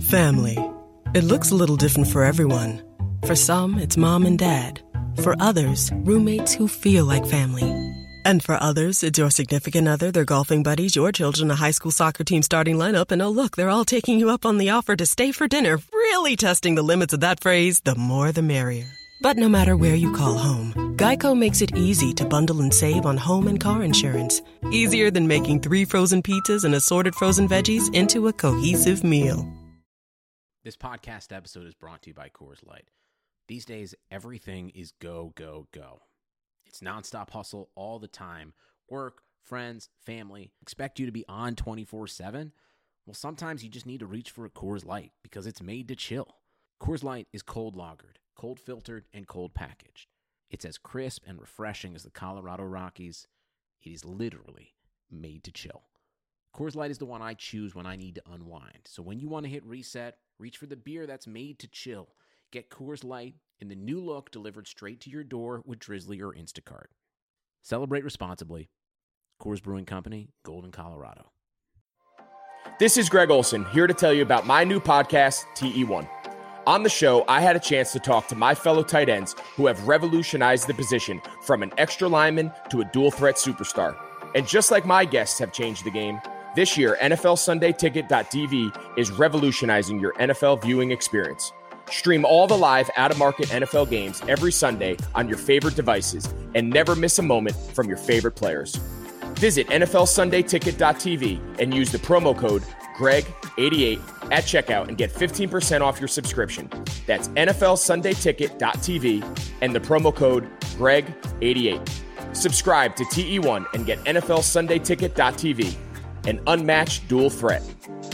Family. It looks a little different for everyone. For some, it's mom and dad. For others, roommates who feel like family. And for others, it's your significant other, their golfing buddies, your children, a high school soccer team starting lineup, and oh look, they're all taking you up on the offer to stay for dinner, really testing the limits of that phrase, the more the merrier. But no matter where you call home, Geico makes it easy to bundle and save on home and car insurance. Easier than making 3 frozen pizzas and assorted frozen veggies into a cohesive meal. This podcast episode is brought to you by Coors Light. These days, everything is go, go, go. It's nonstop hustle all the time. Work, friends, family. Expect you to be on 24/7? Well, sometimes you just need to reach for a Coors Light because it's made to chill. Coors Light is cold lagered, cold filtered, and cold packaged. It's as crisp and refreshing as the Colorado Rockies. It is literally made to chill. Coors Light is the one I choose when I need to unwind. So when you want to hit reset, reach for the beer that's made to chill. Get Coors Light in the new look delivered straight to your door with Drizzly or Instacart. Celebrate responsibly. Coors Brewing Company, Golden, Colorado. This is Greg Olson, here to tell you about my new podcast, TE1. On the show, I had a chance to talk to my fellow tight ends who have revolutionized the position from an extra lineman to a dual-threat superstar. And just like my guests have changed the game, this year, NFLSundayTicket.tv is revolutionizing your NFL viewing experience. Stream all the live out-of-market NFL games every Sunday on your favorite devices and never miss a moment from your favorite players. Visit NFLSundayTicket.tv and use the promo code GREG88 at checkout and get 15% off your subscription. That's NFLSundayTicket.tv and the promo code GREG88. Subscribe to TE1 and get NFLSundayTicket.tv, an unmatched dual threat.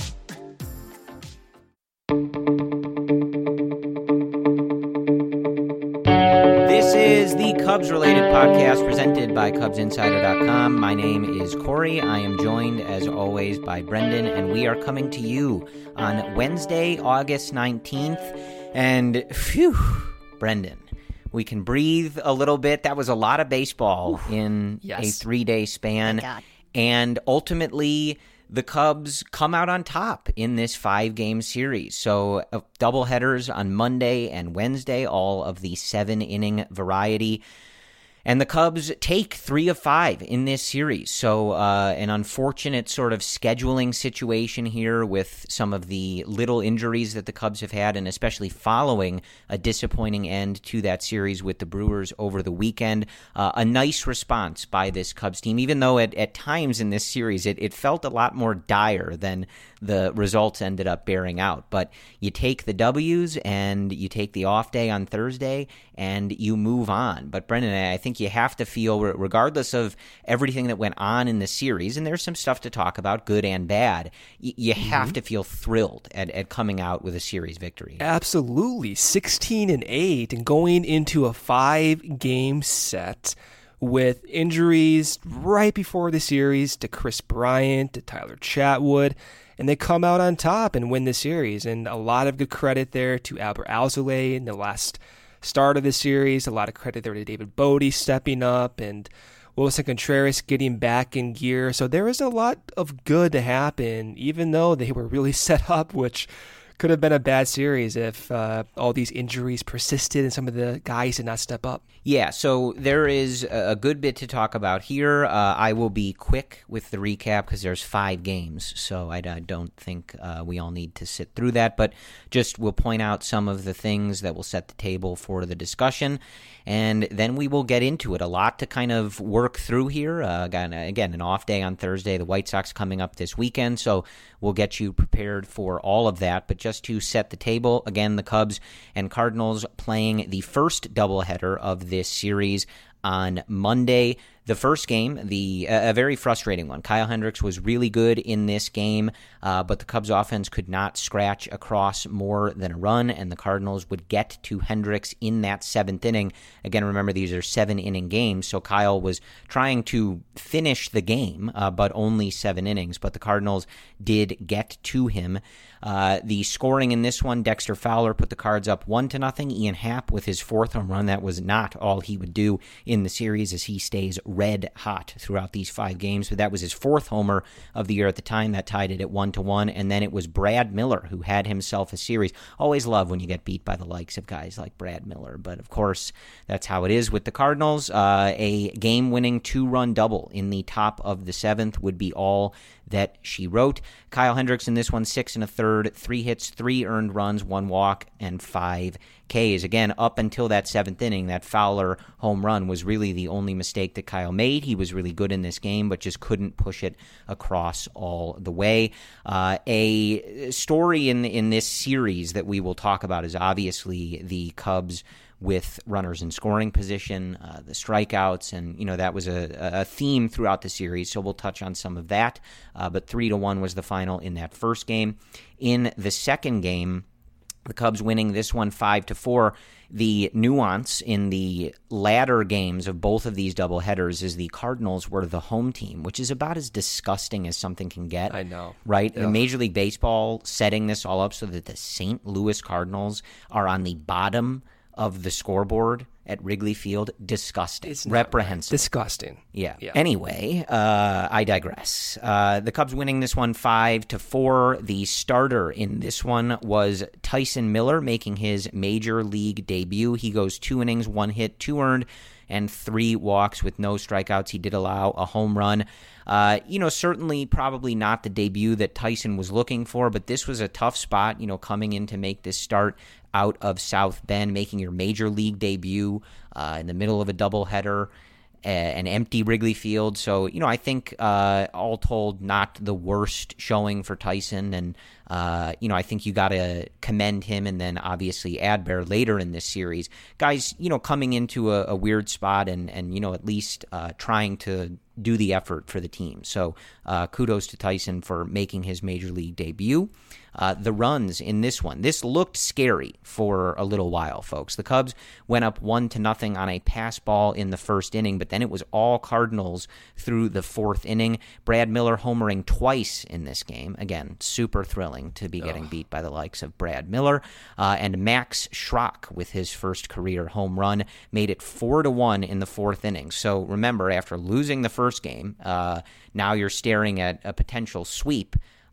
This is the Cubs-related podcast presented by CubsInsider.com. My name is Corey. I am joined, as always, by Brendan, and we are coming to you on Wednesday, August 19th. And, phew, Brendan, we can breathe a little bit. That was a lot of baseball in a 3-day span. And ultimately, the Cubs come out on top in this 5-game series. So doubleheaders on Monday and Wednesday, all of the 7-inning variety. And the Cubs take 3 of 5 in this series. So an unfortunate sort of scheduling situation here with some of the little injuries that the Cubs have had, and especially following a disappointing end to that series with the Brewers over the weekend. A nice response by this Cubs team, even though at times in this series it felt a lot more dire than the results ended up bearing out. But you take the W's and you take the off day on Thursday and you move on. But Brendan, I think you have to feel, regardless of everything that went on in the series, and there's some stuff to talk about, good and bad, you have to feel thrilled at coming out with a series victory. Absolutely. 16-8 and going into a 5-game set with injuries right before the series to Chris Bryant, to Tyler Chatwood, and they come out on top and win the series. And a lot of good credit there to Albert Alzolay in the last start of the series. A lot of credit there to David Bodie stepping up and Wilson Contreras getting back in gear. So there was a lot of good to happen, even though they were really set up, which could have been a bad series if all these injuries persisted and some of the guys did not step up. Yeah, so there is a good bit to talk about here. I will be quick with the recap because there's 5 games, so I don't think we all need to sit through that, but just we'll point out some of the things that will set the table for the discussion, and then we will get into it. A lot to kind of work through here. Again, an off day on Thursday, the White Sox coming up this weekend, so we'll get you prepared for all of that, but just to set the table, again, the Cubs and Cardinals playing the first doubleheader of this series on Monday. The first game, a very frustrating one. Kyle Hendricks was really good in this game, but the Cubs offense could not scratch across more than a run, and the Cardinals would get to Hendricks in that 7th inning. Again, remember, these are 7-inning games, so Kyle was trying to finish the game, but only 7 innings, but the Cardinals did get to him. The scoring in this one, Dexter Fowler put the Cards up 1-0. Ian Happ with his 4th home run. That was not all he would do in the series as he stays red hot throughout these 5 games. But that was his 4th homer of the year at the time. That tied it at 1-1. And then it was Brad Miller who had himself a series. Always love when you get beat by the likes of guys like Brad Miller. But of course, that's how it is with the Cardinals. A game-winning 2-run double in the top of the 7th would be all that she wrote. Kyle Hendricks in this one, 6 1/3, 3 hits, 3 earned runs, 1 walk, and 5 Ks. Again, up until that 7th inning, that Fowler home run was really the only mistake that Kyle made. He was really good in this game, but just couldn't push it across all the way. A story in this series that we will talk about is obviously the Cubs with runners in scoring position, the strikeouts, and that was a theme throughout the series, so we'll touch on some of that. But 3-1 was the final in that first game. In the second game, the Cubs winning this one 5-4. The nuance in the latter games of both of these doubleheaders is the Cardinals were the home team, which is about as disgusting as something can get. I know. Right? Yeah. And Major League Baseball setting this all up so that the St. Louis Cardinals are on the bottom of the scoreboard at Wrigley Field. Disgusting. It's not reprehensible. right. Disgusting. Yeah. Anyway, I digress. The Cubs winning this one 5-4. The starter in this one was Tyson Miller, making his major league debut. He goes 2 innings, 1 hit, 2 earned, and 3 walks with no strikeouts. He did allow a home run. Certainly probably not the debut that Tyson was looking for, but this was a tough spot, coming in to make this start out of South Bend, making your major league debut in the middle of a doubleheader, an empty Wrigley Field. So, I think all told, not the worst showing for Tyson. And, I think you got to commend him, and then obviously Adbert later in this series. Guys, coming into a weird spot and at least trying to do the effort for the team. So kudos to Tyson for making his major league debut. The runs in this one. This looked scary for a little while, folks. The Cubs went up 1-0 on a pass ball in the first inning, but then it was all Cardinals through the 4th inning. Brad Miller homering twice in this game. Again, super thrilling to be getting beat by the likes of Brad Miller. And Max Schrock with his first career home run made it 4-1 in the 4th inning. So remember, after losing the first game, now you're staring at a potential sweep.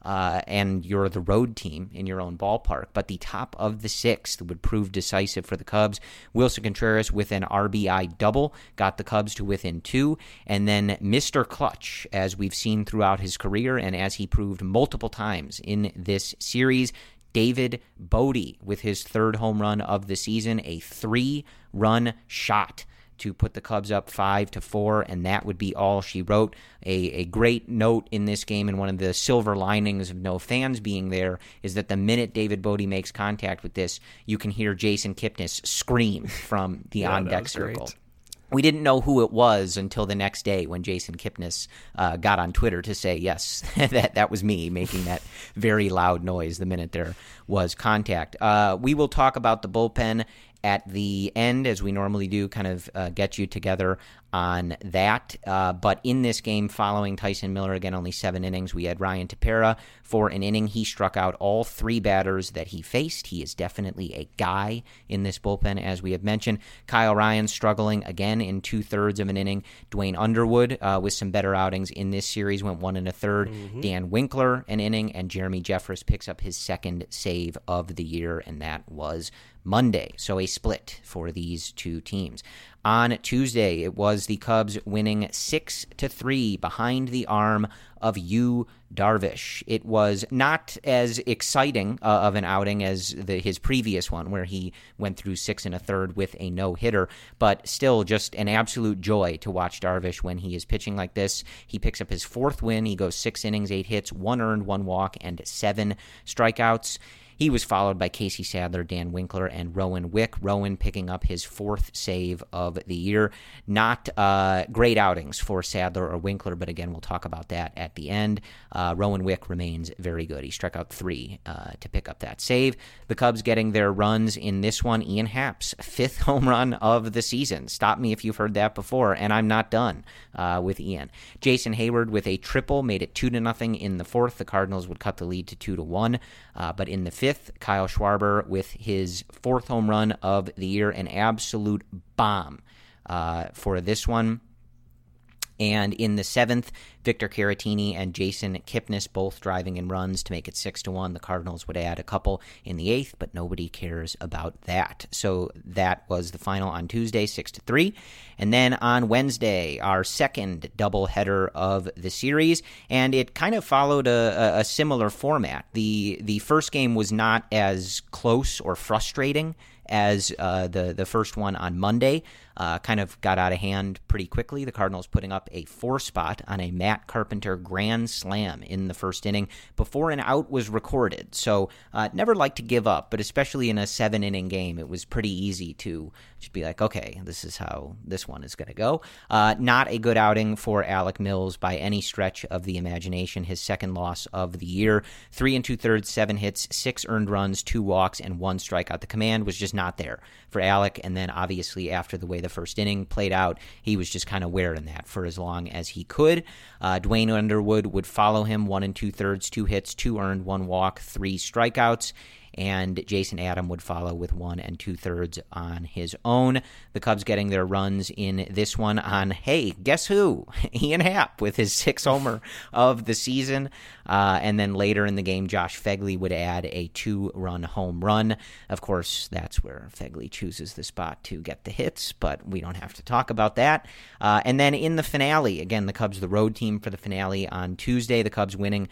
And you're the road team in your own ballpark. But the top of the 6th would prove decisive for the Cubs. Wilson Contreras with an RBI double got the Cubs to within 2. And then Mr. Clutch, as we've seen throughout his career and as he proved multiple times in this series, David Bote with his 3rd home run of the season, a 3-run shot to put the Cubs up 5-4, and that would be all she wrote. A great note in this game, and one of the silver linings of no fans being there, is that the minute David Bote makes contact with this, you can hear Jason Kipnis scream from the on-deck circle. Great. We didn't know who it was until the next day when Jason Kipnis got on Twitter to say, yes, that was me making that very loud noise the minute there was contact. We will talk about the bullpen at the end, as we normally do, kind of get you together on that. But in this game, following Tyson Miller, again, only 7 innings, we had Ryan Tepera for an inning. He struck out all 3 batters that he faced. He is definitely a guy in this bullpen, as we have mentioned. Kyle Ryan struggling again in 2/3 of an inning. Dwayne Underwood with some better outings in this series, went 1 1/3. Dan Winkler an inning, and Jeremy Jeffress picks up his 2nd save of the year, and that was Monday. So a split for these two teams. On Tuesday, it was the Cubs winning 6-3 behind the arm of Yu Darvish. It was not as exciting of an outing as his previous one, where he went through 6 1/3 with a no-hitter, but still just an absolute joy to watch Darvish when he is pitching like this. He picks up his 4th win. He goes 6 innings, 8 hits, 1 earned, 1 walk, and 7 strikeouts. He was followed by Casey Sadler, Dan Winkler, and Rowan Wick. Rowan picking up his 4th save of the year. Not great outings for Sadler or Winkler, but again, we'll talk about that at the end. Rowan Wick remains very good. He struck out 3 to pick up that save. The Cubs getting their runs in this one. Ian Happ's 5th home run of the season. Stop me if you've heard that before, and I'm not done with Ian. Jason Hayward with a triple made it 2-0 in the 4th. The Cardinals would cut the lead to 2-1, but in the 5th, Kyle Schwarber with his 4th home run of the year, an absolute bomb for this one. And in the 7th, Victor Caratini and Jason Kipnis both driving in runs to make it 6-1. The Cardinals would add a couple in the 8th, but nobody cares about that. So that was the final on Tuesday, 6-3. And then on Wednesday, our second doubleheader of the series, and it kind of followed a similar format. The first game was not as close or frustrating as the first one on Monday. Kind of got out of hand pretty quickly. The Cardinals putting up a 4-spot on a Matt Carpenter grand slam in the first inning before an out was recorded. So never like to give up, but especially in a 7-inning game, it was pretty easy to just be like, okay, this is how this one is going to go. Not a good outing for Alec Mills by any stretch of the imagination. His second loss of the year. 3 2/3, 7 hits, 6 earned runs, 2 walks, and 1 strikeout. The command was just not there for Alec, and then obviously after the way the first inning played out, he was just kind of wearing that for as long as he could. Dwayne Underwood would follow him, 1 2/3, 2 hits, 2 earned, 1 walk, 3 strikeouts. And Jason Adam would follow with 1 2/3 on his own. The Cubs getting their runs in this one on, hey, guess who? Ian Happ with his 6th homer of the season. And then later in the game, Josh Phegley would add a 2-run home run. Of course, that's where Phegley chooses the spot to get the hits, but we don't have to talk about that. And then in the finale, again, the Cubs, the road team for the finale on Tuesday, the Cubs winning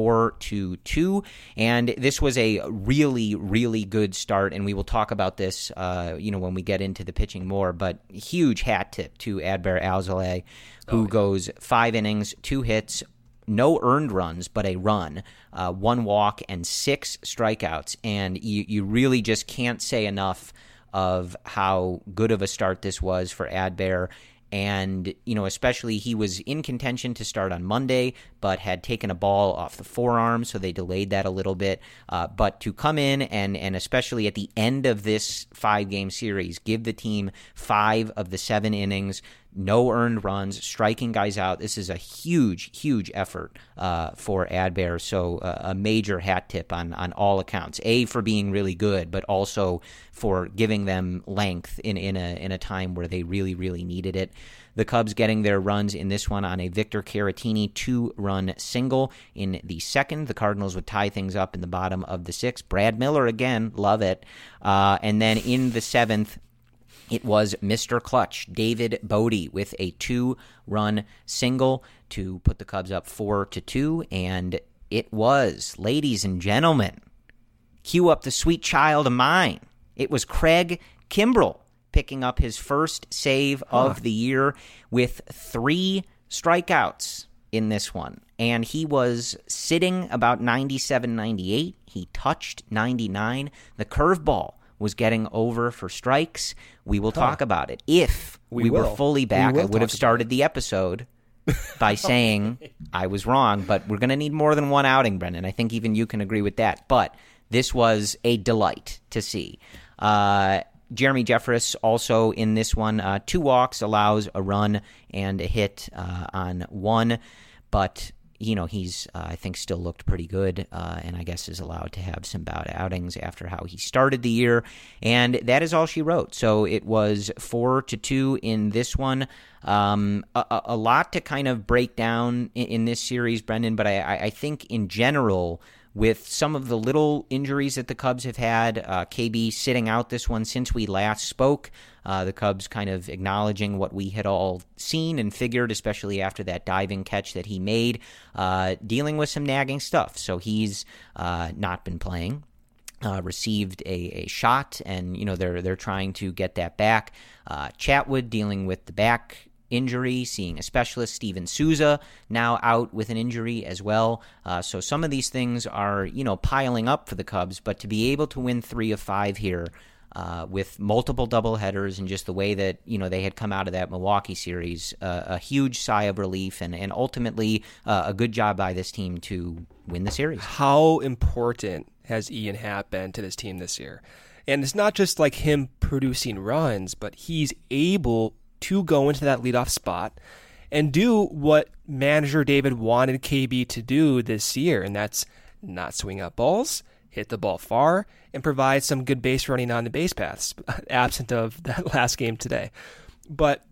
4-2. And this was a really, really good start, and we will talk about this, when we get into the pitching more, but huge hat tip to Adbert Alzolay, who goes 5 innings, 2 hits, no earned runs, but a run, 1 walk, and 6 strikeouts. And you really just can't say enough of how good of a start this was for Adbert. And, especially he was in contention to start on Monday, but had taken a ball off the forearm, so they delayed that a little bit. But to come in and especially at the end of this 5-game series, give the team 5 of the 7 innings, no earned runs, striking guys out. This is a huge, huge effort for Adbert. So a major hat tip on all accounts. A, for being really good, but also for giving them length in a time where they really, really needed it. The Cubs getting their runs in this one on a Victor Caratini 2-run single in the 2nd. The Cardinals would tie things up in the bottom of the 6th. Brad Miller again, love it. And then in the 7th, it was Mr. Clutch, David Bodie, with a 2-run single to put the Cubs up 4-2. And it was, ladies and gentlemen, cue up the sweet child of mine. It was Craig Kimbrell picking up his first save of the year with 3 strikeouts in this one. And he was sitting about 97, 98. He touched 99. The curveball was getting over for strikes. We will talk about it. If we were fully back, I would have started the episode by saying I was wrong, but we're going to need more than one outing, Brendan. I think even you can agree with that. But this was a delight to see. Jeremy Jeffress also in this one, 2 walks, allows a run and a hit on 1, but he's, I think, still looked pretty good, and I guess is allowed to have some bout outings after how he started the year, and that is all she wrote. So it was 4-2 in this one. A lot to kind of break down in this series, Brendan, but I think in general, with some of the little injuries that the Cubs have had, KB sitting out this one since we last spoke, the Cubs kind of acknowledging what we had all seen and figured, especially after that diving catch that he made, dealing with some nagging stuff. So he's not been playing. Received a shot, and they're trying to get that back. Chatwood dealing with the back injury, seeing a specialist. Steven Souza now out with an injury as well. So some of these things are, piling up for the Cubs, but to be able to win 3 of 5 here with multiple doubleheaders and just the way that, they had come out of that Milwaukee series, a huge sigh of relief and ultimately a good job by this team to win the series. How important has Ian Happ been to this team this year? And it's not just like him producing runs, but he's able to go into that leadoff spot and do what manager David wanted KB to do this year, and that's not swing out balls, hit the ball far, and provide some good base running on the base paths, absent of that last game today. But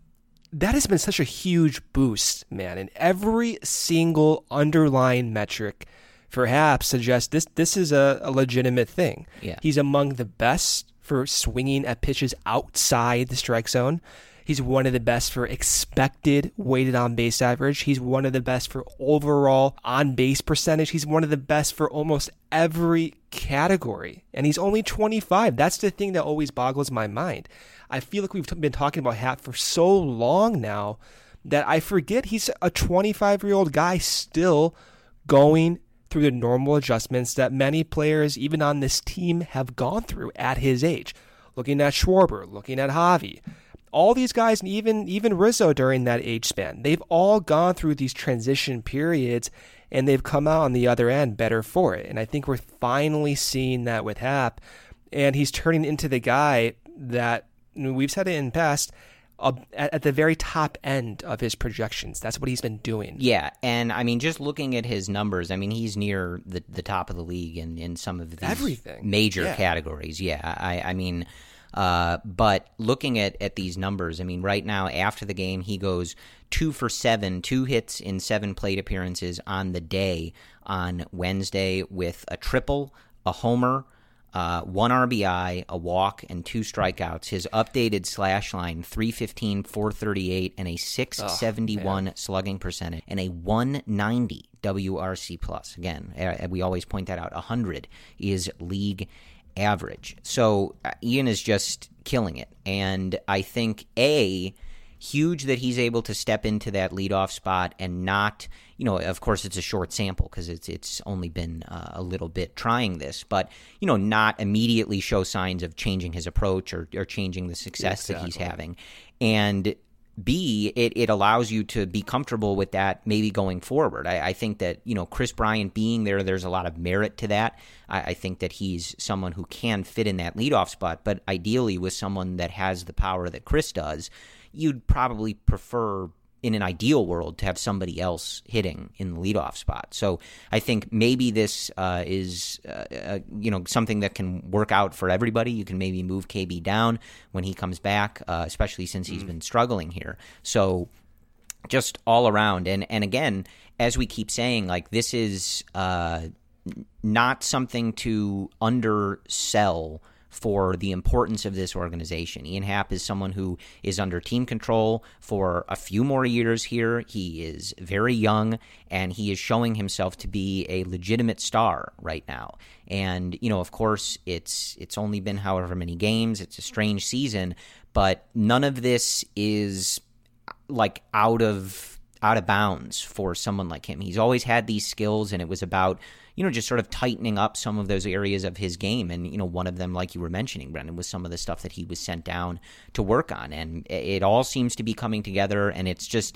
that has been such a huge boost, man. And every single underlying metric perhaps suggests this is a legitimate thing. Yeah. He's among the best for swinging at pitches outside the strike zone. He's one of the best for expected weighted on base average. He's one of the best for overall on base percentage. He's one of the best for almost every category. And he's only 25. That's the thing that always boggles my mind. I feel like we've been talking about Happ for so long now that I forget he's a 25-year-old guy still going through the normal adjustments that many players, even on this team, have gone through at his age. Looking at Schwarber, looking at Javi, all these guys, and even Rizzo during that age span, they've all gone through these transition periods, and they've come out on the other end better for it. And I think we're finally seeing that with Happ, and he's turning into the guy that, we've said it in the past, at the very top end of his projections. That's what he's been doing. Yeah, and I mean, just looking at his numbers, I mean, he's near the top of the league in some of these major categories. Yeah, I mean... but looking at these numbers, I mean, right now after the game, he goes 2 for 7, 2 hits in 7 plate appearances on the day on Wednesday with a triple, a homer, 1 RBI, a walk, and 2 strikeouts. His updated slash line, 315, 438, and a 671 slugging percentage, and a 190 WRC plus. Again, we always point that out. 100 is league average. So Ian is just killing it. And I think, huge that he's able to step into that leadoff spot and not, of course it's a short sample because it's only been a little bit trying this, but, not immediately show signs of changing his approach or changing the success that he's having. And B, it allows you to be comfortable with that maybe going forward. I think that, Kris Bryant being there's a lot of merit to that. I think that he's someone who can fit in that leadoff spot, but ideally with someone that has the power that Kris does, you'd probably prefer, in an ideal world, to have somebody else hitting in the leadoff spot. So I think maybe this is something that can work out for everybody. You can maybe move KB down when he comes back, especially since he's been struggling here. So just all around. And again, as we keep saying, like, this is not something to undersell for the importance of this organization. Ian Happ is someone who is under team control for a few more years here. He is very young, and he is showing himself to be a legitimate star right now. And, of course, it's only been however many games. It's a strange season, but none of this is like out of bounds for someone like him. He's always had these skills, and it was about just sort of tightening up some of those areas of his game. And, one of them, like you were mentioning, Brendan, was some of the stuff that he was sent down to work on. And it all seems to be coming together. And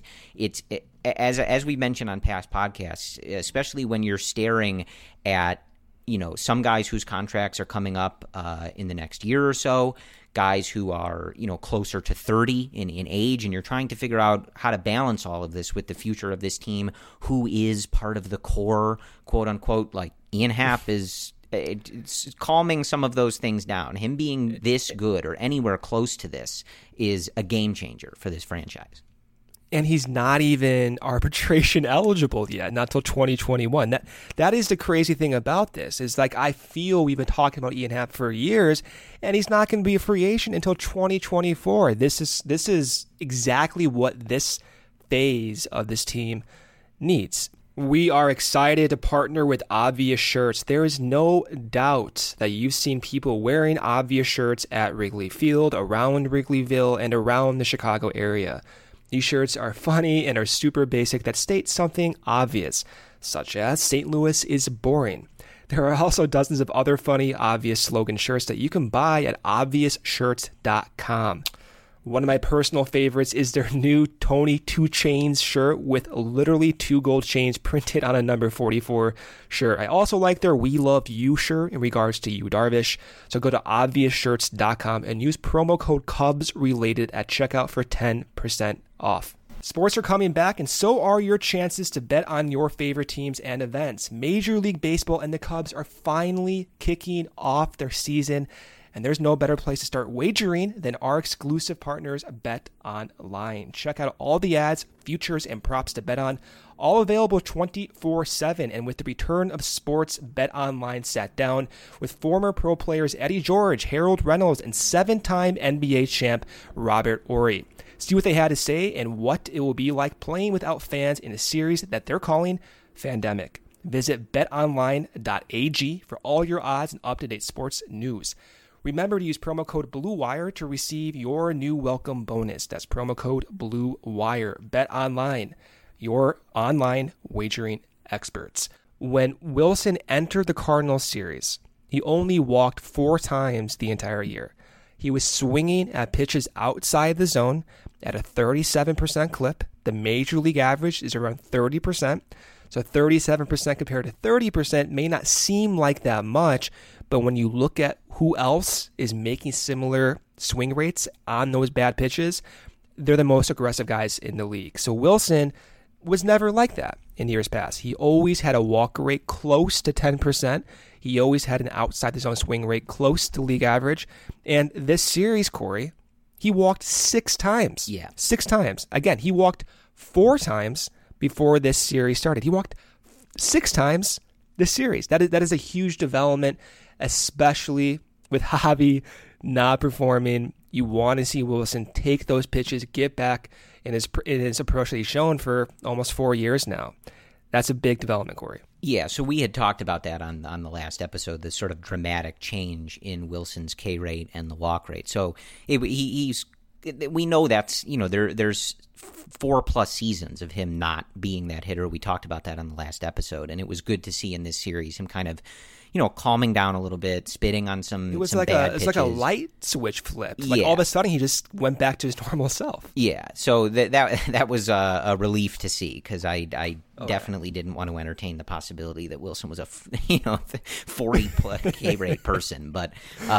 as we mentioned on past podcasts, especially when you're staring at, some guys whose contracts are coming up in the next year or so, guys who are, closer to 30 in age, and you're trying to figure out how to balance all of this with the future of this team, who is part of the core, quote unquote. Like, Ian Happ is calming some of those things down. Him being this good or anywhere close to this is a game changer for this franchise. And he's not even arbitration eligible yet, not till 2021. That is the crazy thing about this. Is like, I feel we've been talking about Ian Happ for years, and he's not going to be a free agent until 2024. This is exactly what this phase of this team needs. We are excited to partner with Obvious Shirts. There is no doubt that you've seen people wearing Obvious shirts at Wrigley Field, around Wrigleyville, and around the Chicago area. These shirts are funny and are super basic that state something obvious, such as St. Louis is boring. There are also dozens of other funny, obvious slogan shirts that you can buy at obviousshirts.com. One of my personal favorites is their new Tony 2 Chains shirt with literally 2 gold chains printed on a number 44 shirt. I also like their We Love You shirt in regards to Yu Darvish. So go to obviousshirts.com and use promo code CUBSRELATED at checkout for 10% off. Sports are coming back, and so are your chances to bet on your favorite teams and events. Major League Baseball and the Cubs are finally kicking off their season, And there's no better place to start wagering than our exclusive partners, Bet Online. Check out all the ads, futures, and props to bet on, all available 24/7. And with the return of sports, Bet Online sat down with former pro players Eddie George, Harold Reynolds, and 7-time NBA champ Robert Horry. See what they had to say and what it will be like playing without fans in a series that they're calling Fandemic. Visit betonline.ag for all your odds and up-to-date sports news. Remember to use promo code BlueWire to receive your new welcome bonus. That's promo code BlueWire. BetOnline, your online wagering experts. When Wilson entered the Cardinals series, he only walked 4 times the entire year. He was swinging at pitches outside the zone at a 37% clip. The major league average is around 30%. So 37% compared to 30% may not seem like that much, but when you look at who else is making similar swing rates on those bad pitches, they're the most aggressive guys in the league. So Wilson was never like that in years past. He always had a walk rate close to 10%. He always had an outside the zone swing rate close to league average. And this series, Corey, he walked 6 times. Yeah. 6 times. Again, he walked 4 times before this series started. He walked 6 times this series. That is a huge development, especially with Javi not performing. You want to see Wilson take those pitches, get back in his approach that he's shown for almost 4 years now. That's a big development, Corey. Yeah, so we had talked about that on the last episode, this sort of dramatic change in Wilson's K rate and the walk rate. So we know that's, there's 4+ seasons of him not being that hitter. We talked about that on the last episode, and it was good to see in this series him kind of, calming down a little bit, spitting on some. It was some like bad it's pitches. like a light switch flip. Like all of a sudden he just went back to his normal self. Yeah, so that was a relief to see, because I definitely didn't want to entertain the possibility that Wilson was a 40 K rate person. But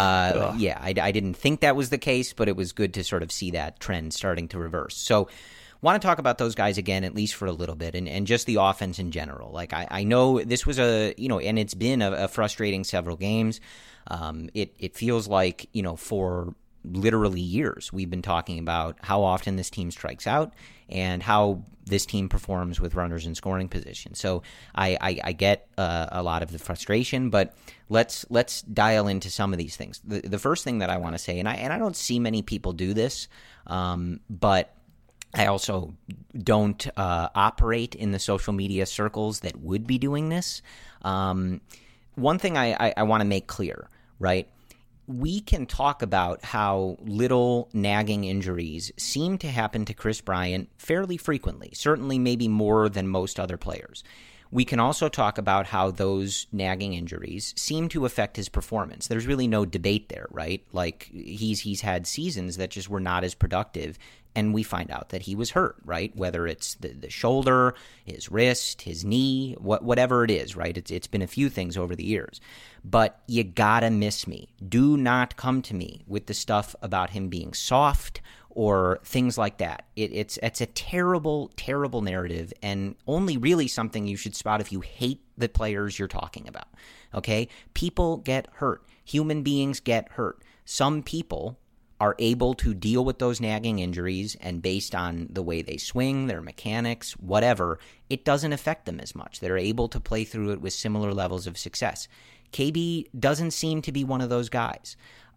I didn't think that was the case, but it was good to sort of see that trend starting to reverse. So want to talk about those guys again, at least for a little bit, and just the offense in general. Like I know this was and it's been a frustrating several games. It feels like, for literally years we've been talking about how often this team strikes out and how this team performs with runners in scoring position. So I get a lot of the frustration, but let's dial into some of these things. The first thing that I want to say, and I don't see many people do this, but I also don't operate in the social media circles that would be doing this. One thing I want to make clear, right? We can talk about how little nagging injuries seem to happen to Kris Bryant fairly frequently, certainly maybe more than most other players. We can also talk about how those nagging injuries seem to affect his performance. There's really no debate there, right? Like he's had seasons that just were not as productive, and we find out that he was hurt, right? Whether it's the shoulder, his wrist, his knee, whatever it is, right? It's been a few things over the years. But you gotta miss me. Do not come to me with the stuff about him being soft or things like that. It's a terrible, terrible narrative, and only really something you should spot if you hate the players you're talking about, okay? People get hurt. Human beings get hurt. Some people are able to deal with those nagging injuries, and based on the way they swing, their mechanics, whatever, it doesn't affect them as much. They're able to play through it with similar levels of success. KB doesn't seem to be one of those guys.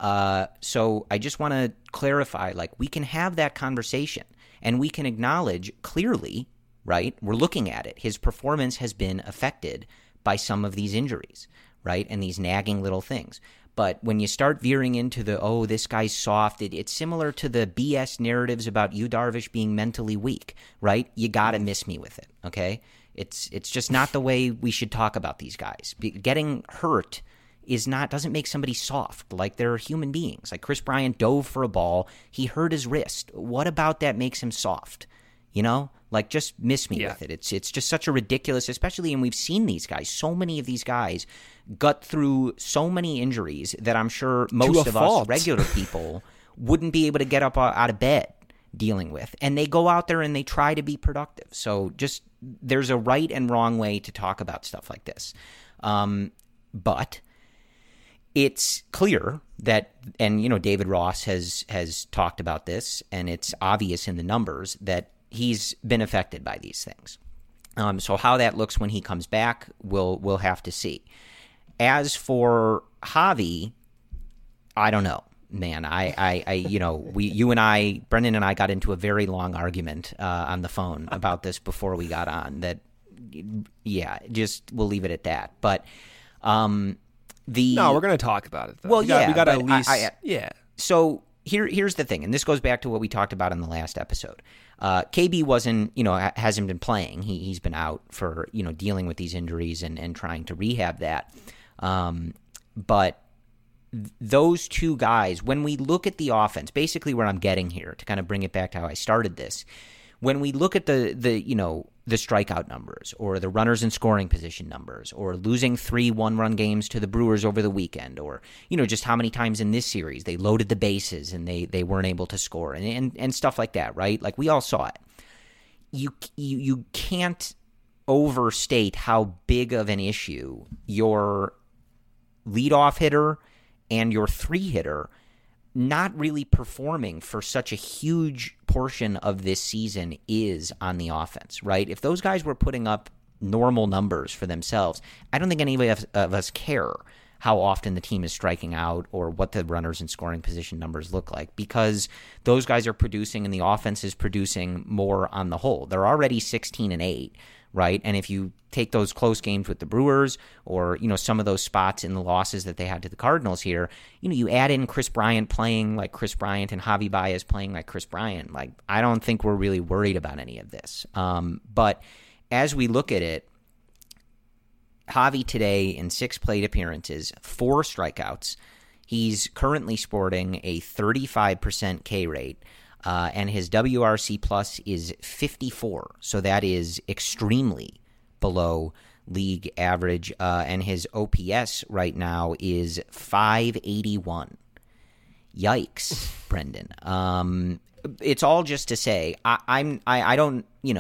So I just want to clarify, like, we can have that conversation and we can acknowledge clearly, right? We're looking at it. His performance has been affected by some of these injuries, right? And these nagging little things. But when you start veering into this guy's soft, it's similar to the BS narratives about Yu Darvish being mentally weak, right? You got to miss me with it, okay? It's just not the way we should talk about these guys. Getting hurt doesn't make somebody soft. Like, they're human beings. Like, Kris Bryant dove for a ball. He hurt his wrist. What about that makes him soft? Like, just miss me with it. It's just such a ridiculous, especially, and we've seen these guys, so many of these guys gut through so many injuries that I'm sure most of us regular people wouldn't be able to get up out of bed dealing with. And they go out there and they try to be productive. So just, there's a right and wrong way to talk about stuff like this. But it's clear that, and David Ross has talked about this, and it's obvious in the numbers that he's been affected by these things. So how that looks when he comes back, we'll have to see. As for Javi, I don't know, man. You and I, Brendan and I, got into a very long argument on the phone about this before we got on. That, yeah, just we'll leave it at that. But no, we're going to talk about it, though. Well, we got to at least, yeah. So here's the thing, and this goes back to what we talked about in the last episode. KB hasn't been playing. He's been out for, dealing with these injuries and trying to rehab that. But those two guys, when we look at the offense, basically where I'm getting here to kind of bring it back to how I started this, when we look at the strikeout numbers or the runners in scoring position numbers or losing 3 one-run games to the Brewers over the weekend or, just how many times in this series they loaded the bases and they weren't able to score and stuff like that, right? Like we all saw it. You can't overstate how big of an issue your leadoff hitter and your 3-hitter not really performing for such a huge portion of this season is on the offense, right? If those guys were putting up normal numbers for themselves, I don't think any of us care how often the team is striking out or what the runners in scoring position numbers look like, because those guys are producing and the offense is producing more on the whole. They're already 16-8, right? And if you take those close games with the Brewers or, some of those spots in the losses that they had to the Cardinals here, you add in Chris Bryant playing like Chris Bryant and Javi Baez playing like Chris Bryant. Like, I don't think we're really worried about any of this. But as we look at it, Javi today in 6 plate appearances, 4 strikeouts. He's currently sporting a 35% K rate. And his WRC plus is 54, so that is extremely below league average. And his OPS right now is 581. Yikes, Brendan. It's all just to say, I don't,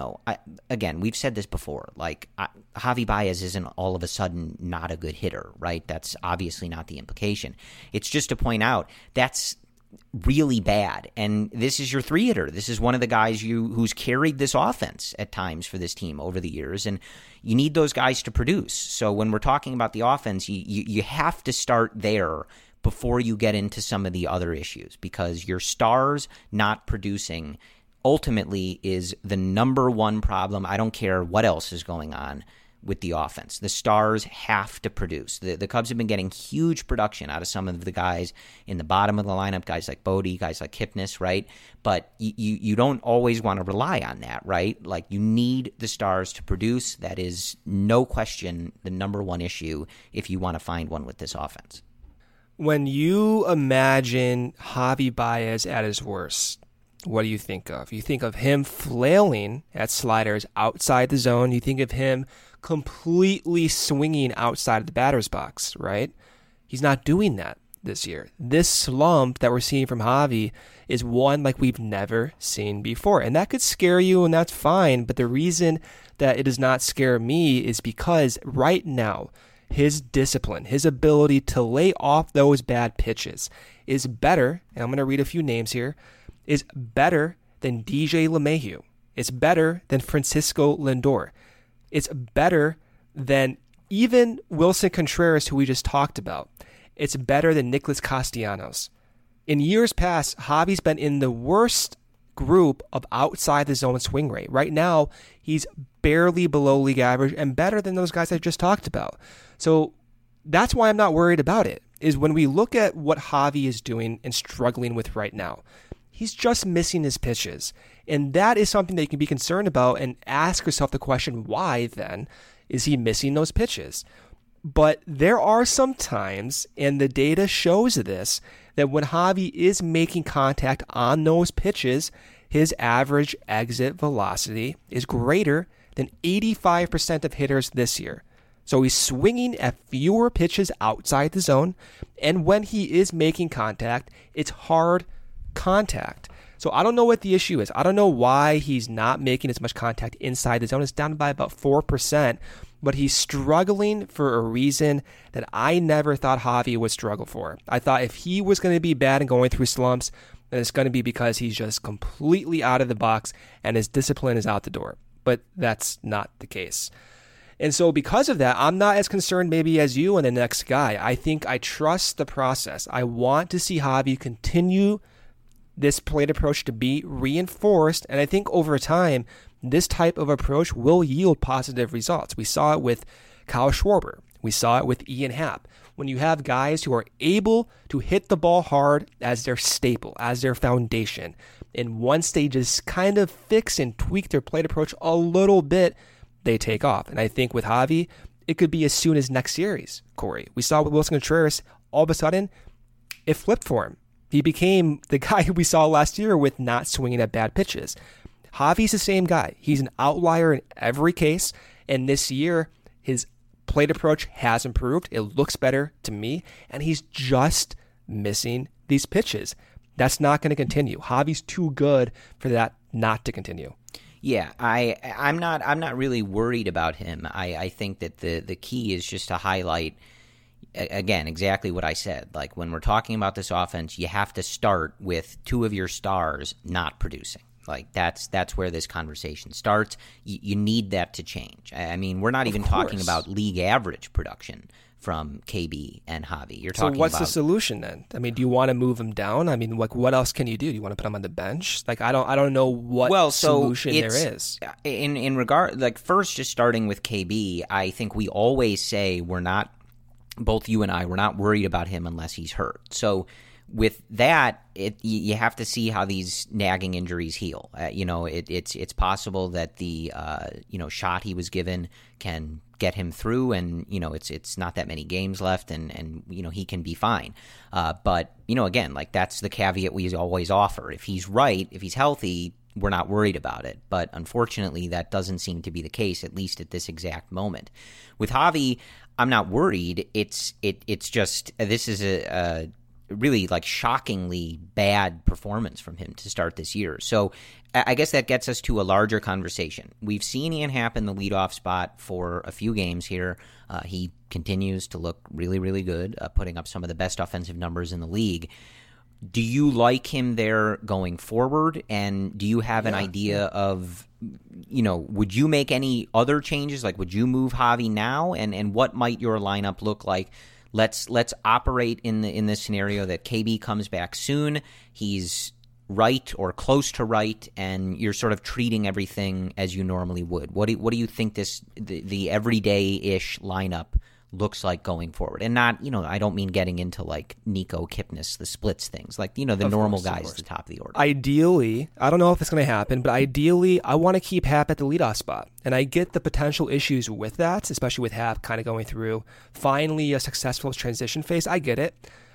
again, we've said this before, like Javi Baez isn't all of a sudden not a good hitter, right? That's obviously not the implication. It's just to point out that's really bad, and this is your 3-hitter. This is one of the guys who's carried this offense at times for this team over the years, and you need those guys to produce. So when we're talking about the offense, you have to start there before you get into some of the other issues, because your stars not producing ultimately is the number one problem. I don't care what else is going on with the offense. The stars have to produce. The Cubs have been getting huge production out of some of the guys in the bottom of the lineup, guys like Bodie, guys like Kipnis, right? But you don't always want to rely on that, right? Like, you need the stars to produce. That is no question the number one issue if you want to find one with this offense. When you imagine Javi Baez at his worst, what do you think of? You think of him flailing at sliders outside the zone. You think of him completely swinging outside of the batter's box, right? He's not doing that this year. This slump that we're seeing from Javi is one like we've never seen before. And that could scare you, and that's fine. But the reason that it does not scare me is because right now, his discipline, his ability to lay off those bad pitches is better, and I'm going to read a few names here, is better than DJ LeMahieu. It's better than Francisco Lindor. It's better than even Wilson Contreras, who we just talked about. It's better than Nicholas Castellanos. In years past, Javi's been in the worst group of outside the zone swing rate. Right now, he's barely below league average and better than those guys I just talked about. So that's why I'm not worried about it, is when we look at what Javi is doing and struggling with right now, he's just missing his pitches. And that is something that you can be concerned about and ask yourself the question, why then is he missing those pitches? But there are some times, and the data shows this, that when Javi is making contact on those pitches, his average exit velocity is greater than 85% of hitters this year. So he's swinging at fewer pitches outside the zone, and when he is making contact, it's hard contact. So I don't know what the issue is. I don't know why he's not making as much contact inside the zone. It's down by about 4%, but he's struggling for a reason that I never thought Javi would struggle for. I thought if he was going to be bad and going through slumps, then it's going to be because he's just completely out of the box and his discipline is out the door. But that's not the case. And so because of that, I'm not as concerned maybe as you and the next guy. I think I trust the process. I want to see Javi continue this plate approach to be reinforced. And I think over time, this type of approach will yield positive results. We saw it with Kyle Schwarber. We saw it with Ian Happ. When you have guys who are able to hit the ball hard as their staple, as their foundation, and once they just kind of fix and tweak their plate approach a little bit, they take off. And I think with Javi, it could be as soon as next series, Corey. We saw with Wilson Contreras, all of a sudden, it flipped for him. He became the guy we saw last year with not swinging at bad pitches. Javi's the same guy. He's an outlier in every case. And this year, his plate approach has improved. It looks better to me. And he's just missing these pitches. That's not going to continue. Javi's too good for that not to continue. Yeah, I'm not really worried about him. I think that the key is just to highlight, again, exactly what I said. Like when we're talking about this offense, you have to start with two of your stars not producing. Like that's where this conversation starts. You need that to change. I mean, we're not even talking about league average production from KB and Javi. You're talking So what's the solution then? I mean, do you want to move him down? I mean, like what else can you do? Do you want to put him on the bench? Like I don't know what solution there is. In regard, like first just starting with KB, I think we always say we're not, both you and I, we're not worried about him unless he's hurt. So with that, you have to see how these nagging injuries heal. It's possible that the shot he was given can get him through, and it's not that many games left, and he can be fine. But again, like that's the caveat we always offer. If he's right, if he's healthy, we're not worried about it. But unfortunately, that doesn't seem to be the case, at least at this exact moment. With Javi, I'm not worried. It's just this is a really like shockingly bad performance from him to start this year. So I guess that gets us to a larger conversation. We've seen Ian Happ in the leadoff spot for a few games here. He continues to look really, really good, putting up some of the best offensive numbers in the league. Do you like him there going forward? And do you have an idea of, would you make any other changes? Like, would you move Javi now? And what might your lineup look like? Let's operate in this scenario that KB comes back soon. He's right or close to right, and you're sort of treating everything as you normally would. What do you think the everyday-ish lineup looks like going forward? And not, I don't mean getting into like Nico Kipnis, the splits things, like, the normal guys at the top of the order. Ideally, I don't know if it's going to happen, but ideally, I want to keep Happ at the leadoff spot. And I get the potential issues with that, especially with Happ kind of going through finally a successful transition phase. I get it.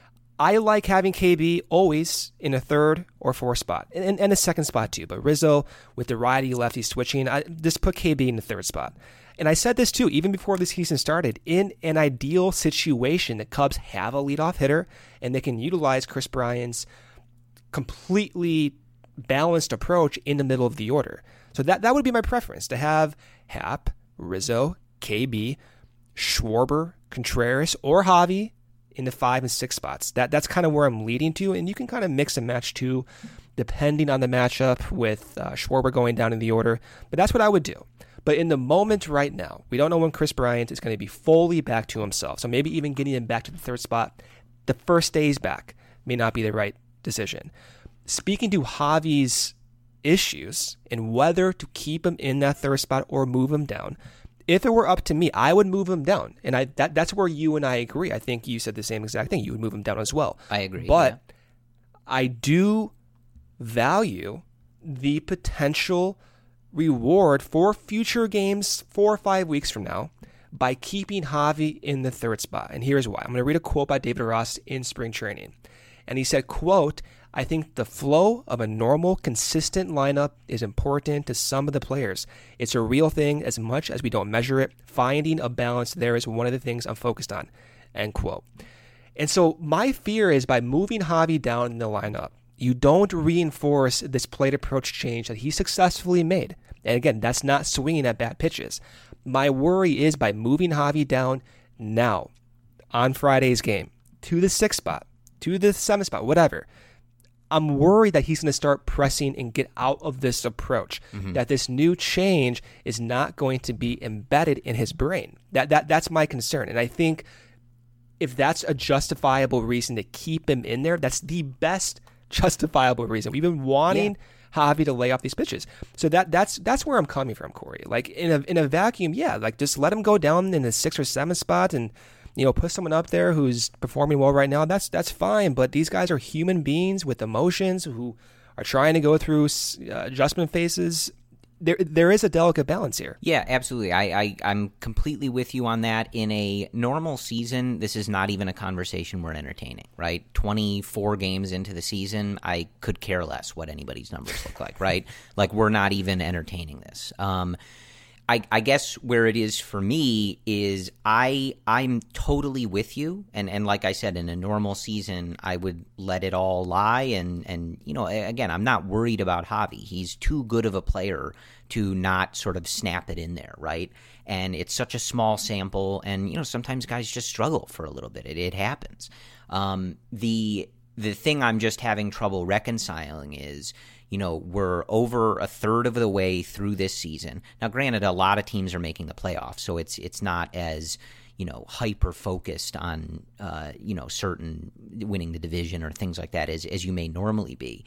I like having KB always in a third or fourth spot, and a second spot too. But Rizzo, with the righty-lefty switching, I just put KB in the third spot. And I said this too, even before the season started, in an ideal situation, the Cubs have a leadoff hitter and they can utilize Kris Bryant's completely balanced approach in the middle of the order. So that would be my preference, to have Happ, Rizzo, KB, Schwarber, Contreras, or Javi in the 5 and 6 spots. That's kind of where I'm leading to, and you can kind of mix and match too, depending on the matchup with Schwarber going down in the order. But that's what I would do. But in the moment right now, we don't know when Kris Bryant is going to be fully back to himself. So maybe even getting him back to the third spot the first days back may not be the right decision. Speaking to Javi's issues and whether to keep him in that third spot or move him down, if it were up to me, I would move him down. And that's where you and I agree. I think you said the same exact thing. You would move him down as well. I agree. But I do value the potential reward for future games 4 or 5 weeks from now by keeping Javi in the third spot. And here's why. I'm going to read a quote by David Ross in spring training. And he said, quote, "I think the flow of a normal, consistent lineup is important to some of the players. It's a real thing as much as we don't measure it. Finding a balance there is one of the things I'm focused on." End quote. And so my fear is by moving Javi down in the lineup, You don't reinforce this plate approach change that he successfully made. And again, that's not swinging at bad pitches. My worry is by moving Javi down now on Friday's game to the 6th spot, to the 7th spot, whatever. I'm worried that he's going to start pressing and get out of this approach, that this new change is not going to be embedded in his brain. That's my concern. And I think if that's a justifiable reason to keep him in there, that's the best justifiable reason. We've been wanting Javi to lay off these pitches. So that's where I'm coming from, Corey. Like in a vacuum, like just let him go down in the 6th or 7th spot and put someone up there who's performing well right now. That's fine. But these guys are human beings with emotions who are trying to go through adjustment phases. There is a delicate balance here. Yeah, absolutely. I'm completely with you on that. In a normal season, this is not even a conversation we're entertaining, right? 24 games into the season, I could care less what anybody's numbers look like, right? Like, we're not even entertaining this. I guess where it is for me is I'm totally with you, and like I said, in a normal season, I would let it all lie, and again, I'm not worried about Javi. He's too good of a player to not sort of snap it in there, right? And it's such a small sample, and sometimes guys just struggle for a little bit. It happens. The thing I'm just having trouble reconciling is, we're over a third of the way through this season. Now, granted, a lot of teams are making the playoffs, so it's not as, hyper focused on, certain winning the division or things like that as you may normally be.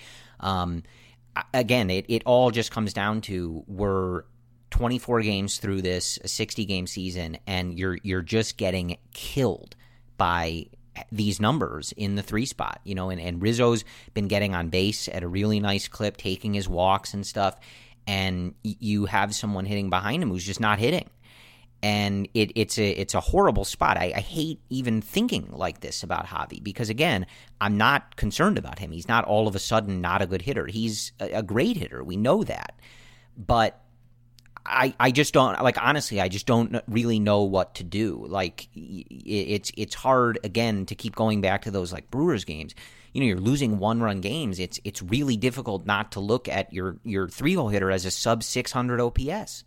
Again, it all just comes down to we're 24 games through this, a 60-game season, and you're just getting killed by these numbers in the 3 spot, and Rizzo's been getting on base at a really nice clip, taking his walks and stuff, and you have someone hitting behind him who's just not hitting. And it's a horrible spot. I hate even thinking like this about Javi because, again, I'm not concerned about him. He's not all of a sudden not a good hitter. He's a great hitter. We know that. But I just don't, like, honestly, I just don't really know what to do. Like, it's hard, again, to keep going back to those, like, Brewers games. You're losing 1-run games. It's really difficult not to look at your 3-hole hitter as a sub 600 OPS,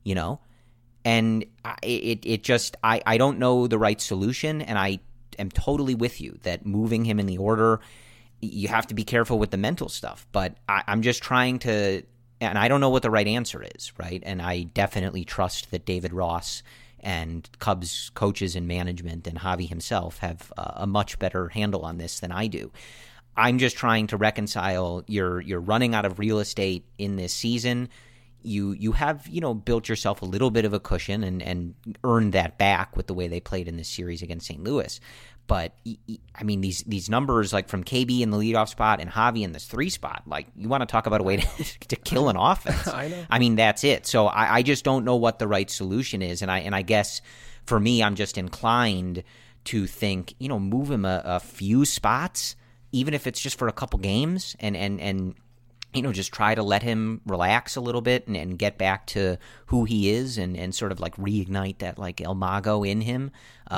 And it just, I don't know the right solution, and I am totally with you that moving him in the order, you have to be careful with the mental stuff. But I'm just trying to, and I don't know what the right answer is, right? And I definitely trust that David Ross and Cubs coaches and management and Javi himself have a much better handle on this than I do. I'm just trying to reconcile you're running out of real estate in this season. You have, built yourself a little bit of a cushion and earned that back with the way they played in this series against St. Louis. But, I mean, these numbers, like from KB in the leadoff spot and Javi in this 3 spot, like, you want to talk about a way to kill an offense. I know. I mean, that's it. So I just don't know what the right solution is. And I guess for me, I'm just inclined to think, move him a few spots, even if it's just for a couple games, and just try to let him relax a little bit and get back to who he is and sort of like reignite that like El Mago in him.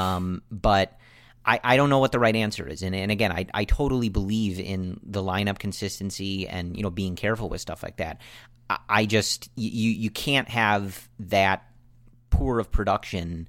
But I don't know what the right answer is. And again, I totally believe in the lineup consistency and, being careful with stuff like that. I just, you can't have that poor of production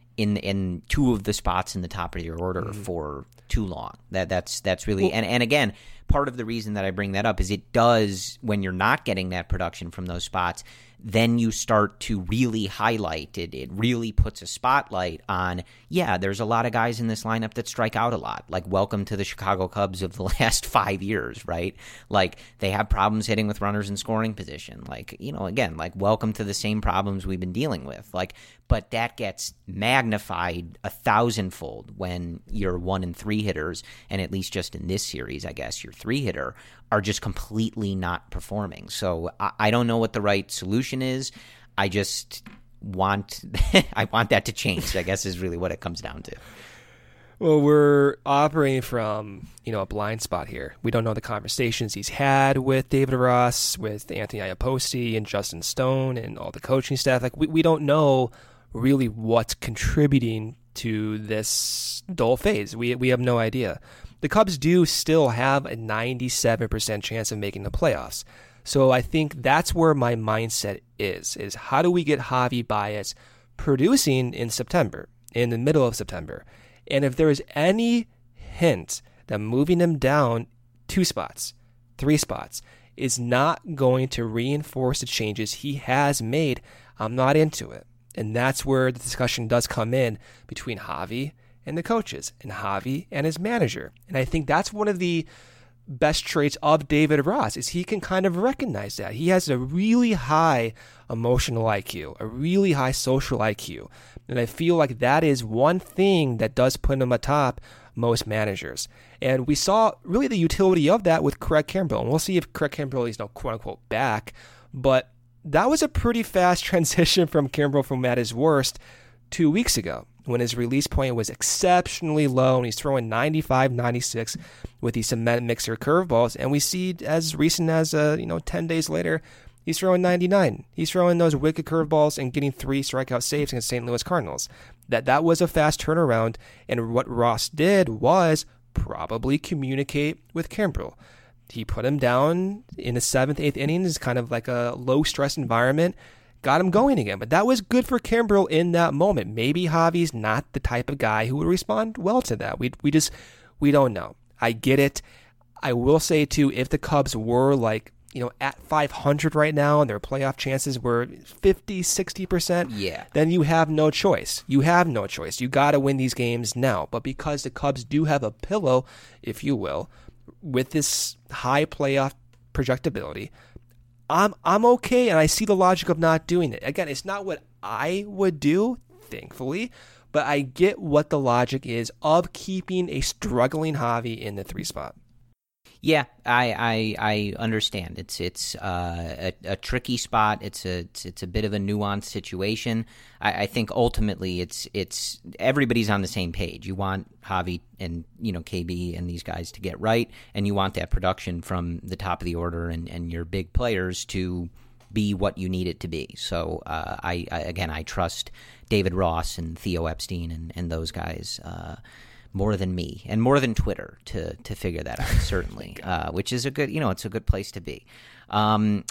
in 2 of the spots in the top of your order for too long. That's really, and again, part of the reason that I bring that up is it does, when you're not getting that production from those spots, then you start to really highlight it. It really puts a spotlight on, there's a lot of guys in this lineup that strike out a lot. Like, welcome to the Chicago Cubs of the last 5 years, right? Like, they have problems hitting with runners in scoring position. Like, again, like, welcome to the same problems we've been dealing with. Like, but that gets magnified 1,000-fold when your 1 and 3 hitters, and at least just in this series, I guess, your 3 hitter, are just completely not performing. So I don't know what the right solution is. I just want I want that to change, I guess, is really what it comes down to. Well, we're operating from, a blind spot here. We don't know the conversations he's had with David Ross, with Anthony Iapoce and Justin Stone and all the coaching staff. Like, we don't know really what's contributing to this dull phase. We have no idea. The Cubs do still have a 97% chance of making the playoffs. So I think that's where my mindset is how do we get Javi Baez producing in September, in the middle of September? And if there is any hint that moving him down 2 spots, 3 spots, is not going to reinforce the changes he has made, I'm not into it. And that's where the discussion does come in between Javi and the coaches, and Javi and his manager. And I think that's one of the best traits of David Ross, is he can kind of recognize that. He has a really high emotional IQ, a really high social IQ. And I feel like that is one thing that does put him atop most managers. And we saw really the utility of that with Craig Kimbrel. And we'll see if Craig Kimbrel is quote unquote back. But that was a pretty fast transition from Kimbrel from at his worst 2 weeks ago, when his release point was exceptionally low and he's throwing 95, 96 with these cement mixer curveballs. And we see as recent as 10 days later, he's throwing 99. He's throwing those wicked curveballs and getting 3 strikeout saves against St. Louis Cardinals. That was a fast turnaround. And what Ross did was probably communicate with Kimbrel. He put him down in the 7th, 8th innings, kind of like a low stress environment, got him going again. But that was good for Kimbrel in that moment. Maybe Javi's not the type of guy who would respond well to that. We don't know. I get it. I will say too, if the Cubs were at 500 right now and their playoff chances were 50, 60%, then you have no choice. You got to win these games now. But because the Cubs do have a pillow, if you will, with this high playoff projectability, I'm okay, and I see the logic of not doing it. Again, it's not what I would do, thankfully, but I get what the logic is of keeping a struggling Javi in the 3 spot. Yeah, I understand. It's a tricky spot. It's a bit of a nuanced situation. I think ultimately it's everybody's on the same page. You want Javi and KB and these guys to get right, and you want that production from the top of the order and your big players to be what you need it to be. So I trust David Ross and Theo Epstein and those guys more than me and more than Twitter to figure that out, certainly, which is a good, it's a good place to be. Want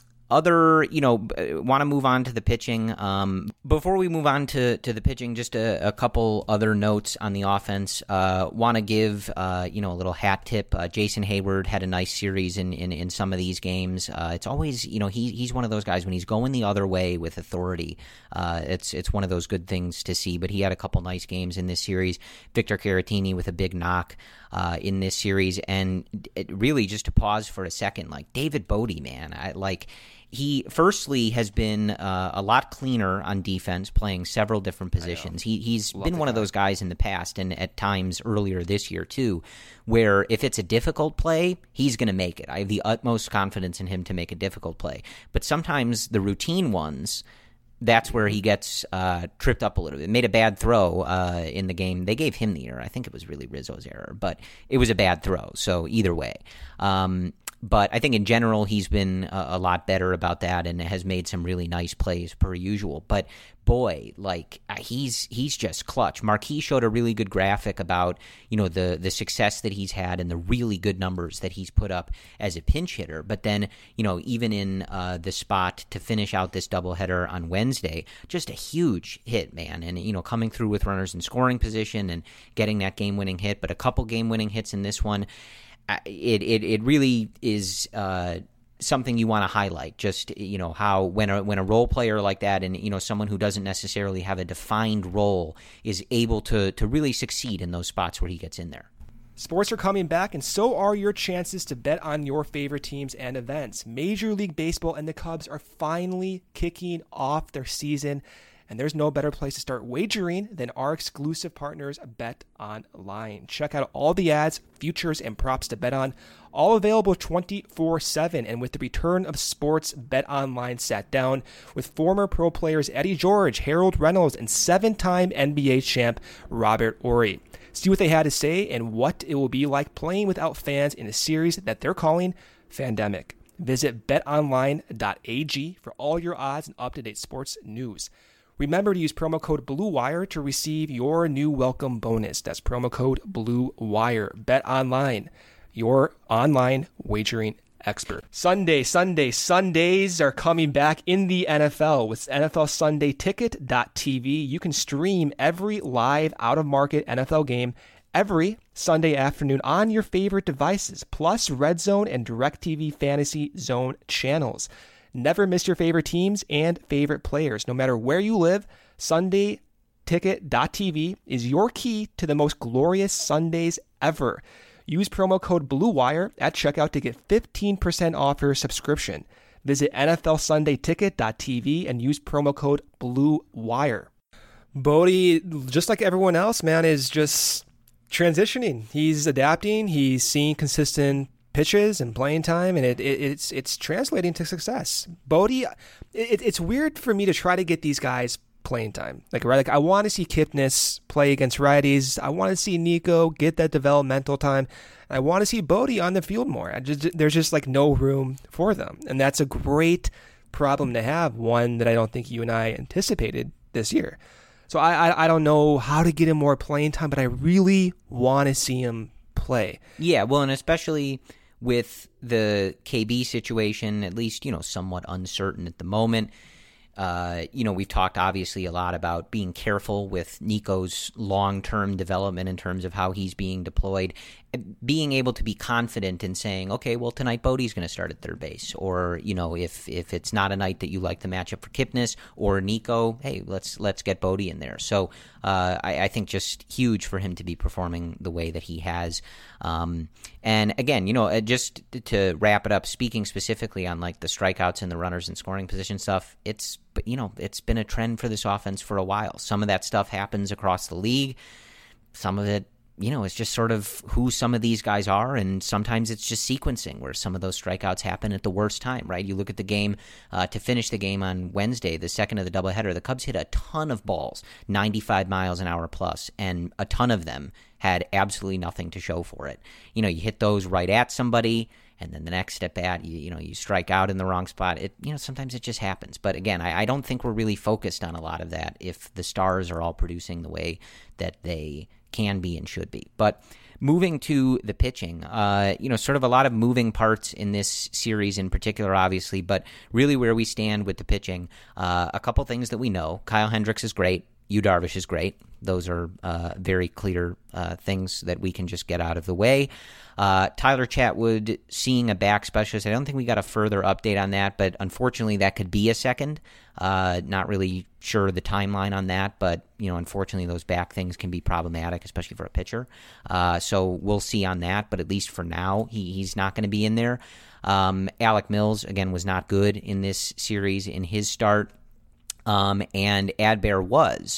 to move on to the pitching. Before we move on to the pitching, just a couple other notes on the offense. Want to give, a little hat tip. Jason Hayward had a nice series in some of these games. It's always, he's one of those guys when he's going the other way with authority. It's one of those good things to see, but he had a couple nice games in this series. Victor Caratini with a big knock in this series. And it really, just to pause for a second, David Bodie, man, he firstly has been a lot cleaner on defense, playing several different positions. He's been one of those guys in the past, and at times earlier this year too, where if it's a difficult play, he's going to make it. I have the utmost confidence in him to make a difficult play. But sometimes the routine ones, that's where he gets tripped up a little bit. Made a bad throw in the game. They gave him the error. I think it was really Rizzo's error, but it was a bad throw. So either way. But I think in general he's been a lot better about that and has made some really nice plays per usual. But boy, he's just clutch. Marquis showed a really good graphic about the success that he's had and the really good numbers that he's put up as a pinch hitter. But then even in the spot to finish out this doubleheader on Wednesday, just a huge hit, man. And coming through with runners in scoring position and getting that game-winning hit, but a couple game-winning hits in this one. It really is something you want to highlight. Just how when a role player like that and someone who doesn't necessarily have a defined role is able to really succeed in those spots where he gets in there. Sports are coming back, and so are your chances to bet on your favorite teams and events. Major League Baseball and the Cubs are finally kicking off their season, and there's no better place to start wagering than our exclusive partners, Bet Online. Check out all the ads, futures, and props to bet on, all available 24/7. And with the return of sports, Bet Online sat down with former pro players Eddie George, Harold Reynolds, and 7-time NBA champ Robert Horry. See what they had to say and what it will be like playing without fans in a series that they're calling Fandemic. Visit betonline.ag for all your odds and up-to-date sports news. Remember to use promo code BlueWire to receive your new welcome bonus. That's promo code BlueWire. Bet Online, your online wagering expert. Sundays are coming back in the NFL with NFLSundayTicket.tv. You can stream every live out-of-market NFL game every Sunday afternoon on your favorite devices, plus Red Zone and DirecTV Fantasy Zone channels. Never miss your favorite teams and favorite players. No matter where you live, SundayTicket.tv is your key to the most glorious Sundays ever. Use promo code BlueWire at checkout to get 15% off your subscription. Visit NFLSundayTicket.tv and use promo code BlueWire. Bodie, just like everyone else, man, is just transitioning. He's adapting. He's seeing consistent pitches and playing time, and it's translating to success. Bodie, it's weird for me to try to get these guys playing time. Like I want to see Kipnis play against righties. I want to see Nico get that developmental time. I want to see Bodie on the field more. There's just like no room for them, and that's a great problem to have. One that I don't think you and I anticipated this year. So I don't know how to get him more playing time, but I really want to see him play. Yeah, well, and especially with the KB situation, at least, somewhat uncertain at the moment. We've talked obviously a lot about being careful with Nico's long-term development in terms of how he's being deployed, being able to be confident in saying, okay, well, tonight Bodie's going to start at third base, or if it's not a night that you like the matchup for Kipnis or Nico, hey, let's get Bodie in there. So I think just huge for him to be performing the way that he has. And again, just to wrap it up, speaking specifically on like the strikeouts and the runners and scoring position stuff, it's been a trend for this offense for a while. Some of that stuff happens across the league. Some of it, it's just sort of who some of these guys are, and sometimes it's just sequencing where some of those strikeouts happen at the worst time, right? You look at the game to finish the game on Wednesday, the second of the doubleheader, the Cubs hit a ton of balls, 95 miles an hour plus, and a ton of them had absolutely nothing to show for it. You hit those right at somebody, and then the next step at, you strike out in the wrong spot. Sometimes it just happens. But again, I don't think we're really focused on a lot of that if the stars are all producing the way that they can be and should be. But moving to the pitching, sort of a lot of moving parts in this series in particular, obviously, but really where we stand with the pitching, a couple things that we know. Kyle Hendricks is great. Yu Darvish is great. Those are very clear things that we can just get out of the way. Tyler Chatwood seeing a back specialist. I don't think we got a further update on that, but unfortunately that could be a second. Not really sure the timeline on that, but unfortunately those back things can be problematic, especially for a pitcher. So we'll see on that, but at least for now he's not going to be in there. Alec Mills, again, was not good in this series in his start. And Adbert was.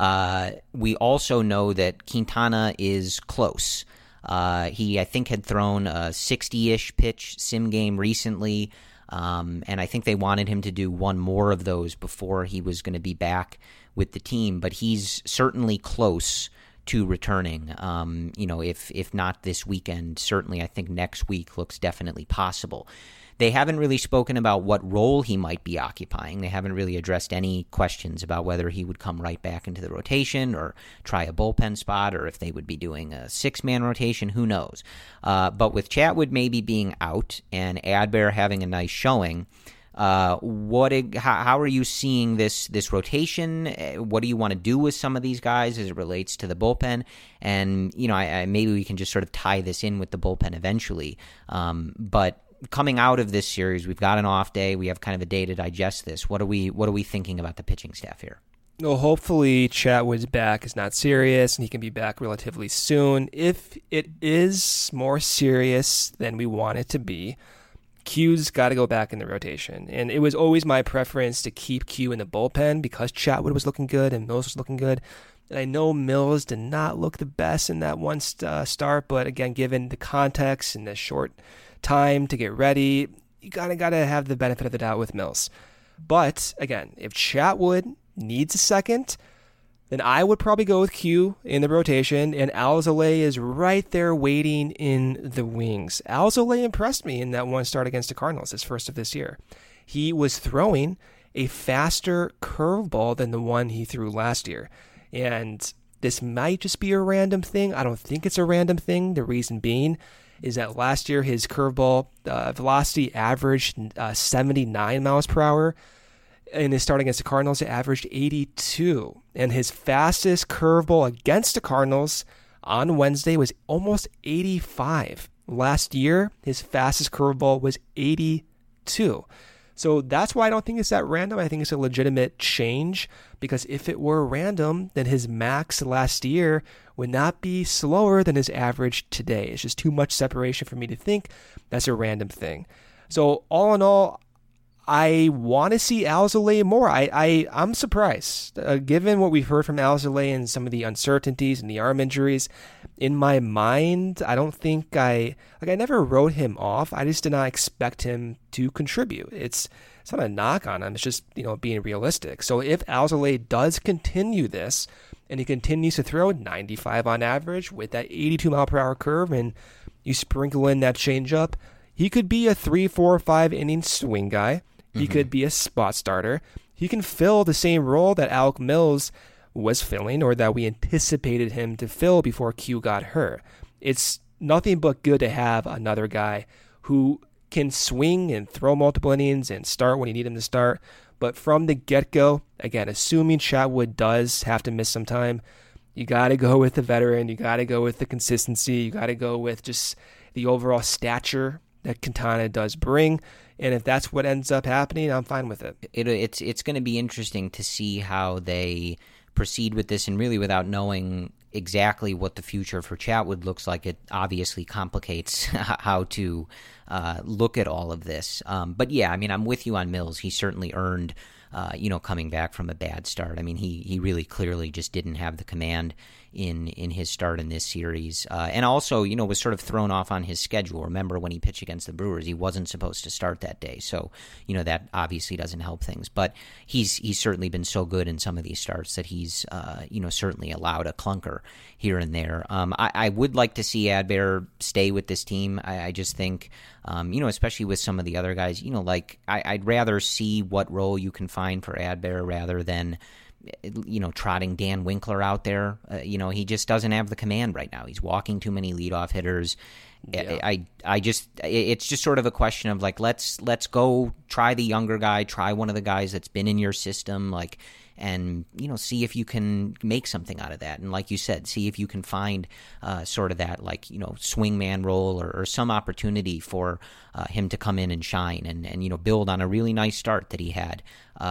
We also know that Quintana is close. He, I think, had thrown a 60-ish pitch sim game recently, and I think they wanted him to do one more of those before he was going to be back with the team. But he's certainly close to returning. If not this weekend, certainly I think next week looks definitely possible. They haven't really spoken about what role he might be occupying. They haven't really addressed any questions about whether he would come right back into the rotation or try a bullpen spot, or if they would be doing a six-man rotation. Who knows? But with Chatwood maybe being out and Adbert having a nice showing, how are you seeing this rotation? What do you want to do with some of these guys as it relates to the bullpen? And maybe we can just sort of tie this in with the bullpen eventually. But coming out of this series, we've got an off day. We have kind of a day to digest this. What are we thinking about the pitching staff here? Well, hopefully Chatwood's back is not serious and he can be back relatively soon. If it is more serious than we want it to be, Q's got to go back in the rotation. And it was always my preference to keep Q in the bullpen because Chatwood was looking good and Mills was looking good. And I know Mills did not look the best in that one start, but again, given the context and the short time to get ready, you gotta have the benefit of the doubt with Mills. But again, if Chatwood needs a second, then I would probably go with Q in the rotation, and Alzolay is right there waiting in the wings. Alzolay impressed me in that one start against the Cardinals, his first of this year. He was throwing a faster curveball than the one he threw last year. And this might just be a random thing. I don't think it's a random thing. The reason being is that last year his curveball velocity averaged 79 miles per hour. In his start against the Cardinals, it averaged 82. And his fastest curveball against the Cardinals on Wednesday was almost 85. Last year, his fastest curveball was 82. So that's why I don't think it's that random. I think it's a legitimate change, because if it were random, then his max last year would not be slower than his average today. It's just too much separation for me to think that's a random thing. So all in all, I want to see Alzolay more. I'm surprised, given what we've heard from Alzolay and some of the uncertainties and the arm injuries. In my mind, I don't think I never wrote him off. I just did not expect him to contribute. It's not a knock on him. It's just, being realistic. So if Alzolay does continue this, and he continues to throw 95 on average with that 82 mile per hour curve, and you sprinkle in that changeup, he could be a 3, 4, 5 inning swing guy. He could be a spot starter. He can fill the same role that Alec Mills was filling, or that we anticipated him to fill before Q got hurt. It's nothing but good to have another guy who can swing and throw multiple innings and start when you need him to start. But from the get-go, again, assuming Chatwood does have to miss some time, you got to go with the veteran. You got to go with the consistency. You got to go with just the overall stature that Quintana does bring. And if that's what ends up happening, I'm fine with it. It's going to be interesting to see how they proceed with this, and really without knowing exactly what the future for Chatwood looks like, it obviously complicates how to look at all of this. But yeah, I mean, I'm with you on Mills. He certainly earned, coming back from a bad start. I mean, he really clearly just didn't have the command in his start in this series. And also, was sort of thrown off on his schedule. Remember when he pitched against the Brewers, he wasn't supposed to start that day. So, that obviously doesn't help things. But he's certainly been so good in some of these starts that he's, certainly allowed a clunker here and there. I would like to see Adbert stay with this team. I just think, especially with some of the other guys, I'd rather see what role you can find for Adbert rather than trotting Dan Winkler out there. He just doesn't have the command right now. He's walking too many leadoff hitters. Yeah. It's just sort of a question of let's go try the younger guy, try one of the guys that's been in your system, and see if you can make something out of that. And like you said, see if you can find sort of that swingman role or some opportunity for him to come in and shine and build on a really nice start that he had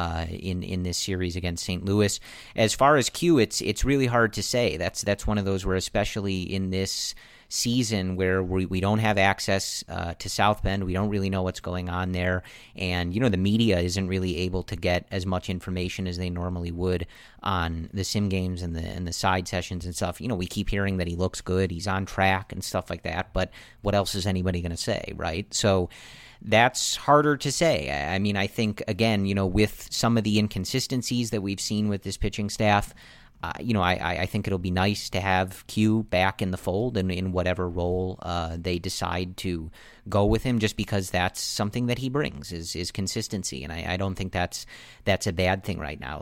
in this series against St. Louis. As far as Q, it's really hard to say. That's one of those where, especially in this season where we don't have access to South Bend, we don't really know what's going on there, and the media isn't really able to get as much information as they normally would on the sim games and the side sessions and stuff. We keep hearing that he looks good, he's on track and stuff like that, but what else is anybody going to say, right? So that's harder to say. I mean, I think, again, with some of the inconsistencies that we've seen with this pitching staff, I think it'll be nice to have Q back in the fold and in whatever role they decide to go with him, just because that's something that he brings is consistency, and I don't think that's a bad thing right now.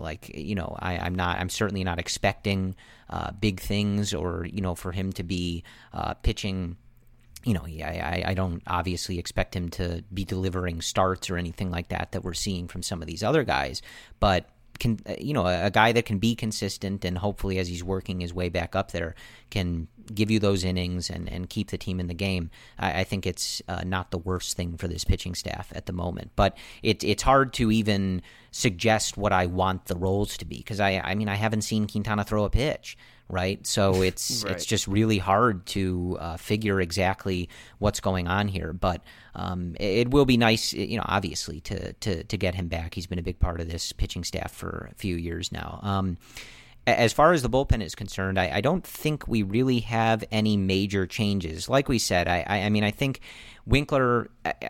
I'm certainly not expecting big things or for him to be pitching. I don't obviously expect him to be delivering starts or anything like that we're seeing from some of these other guys, but a guy that can be consistent and hopefully, as he's working his way back up there, can give you those innings and keep the team in the game. I think it's not the worst thing for this pitching staff at the moment. But it's hard to even suggest what I want the roles to be, because I haven't seen Quintana throw a pitch. Right, so it's right. It's just really hard to figure exactly what's going on here. But it will be nice, obviously, to get him back. He's been a big part of this pitching staff for a few years now. As far as the bullpen is concerned, I don't think we really have any major changes. Like we said, I think Winkler,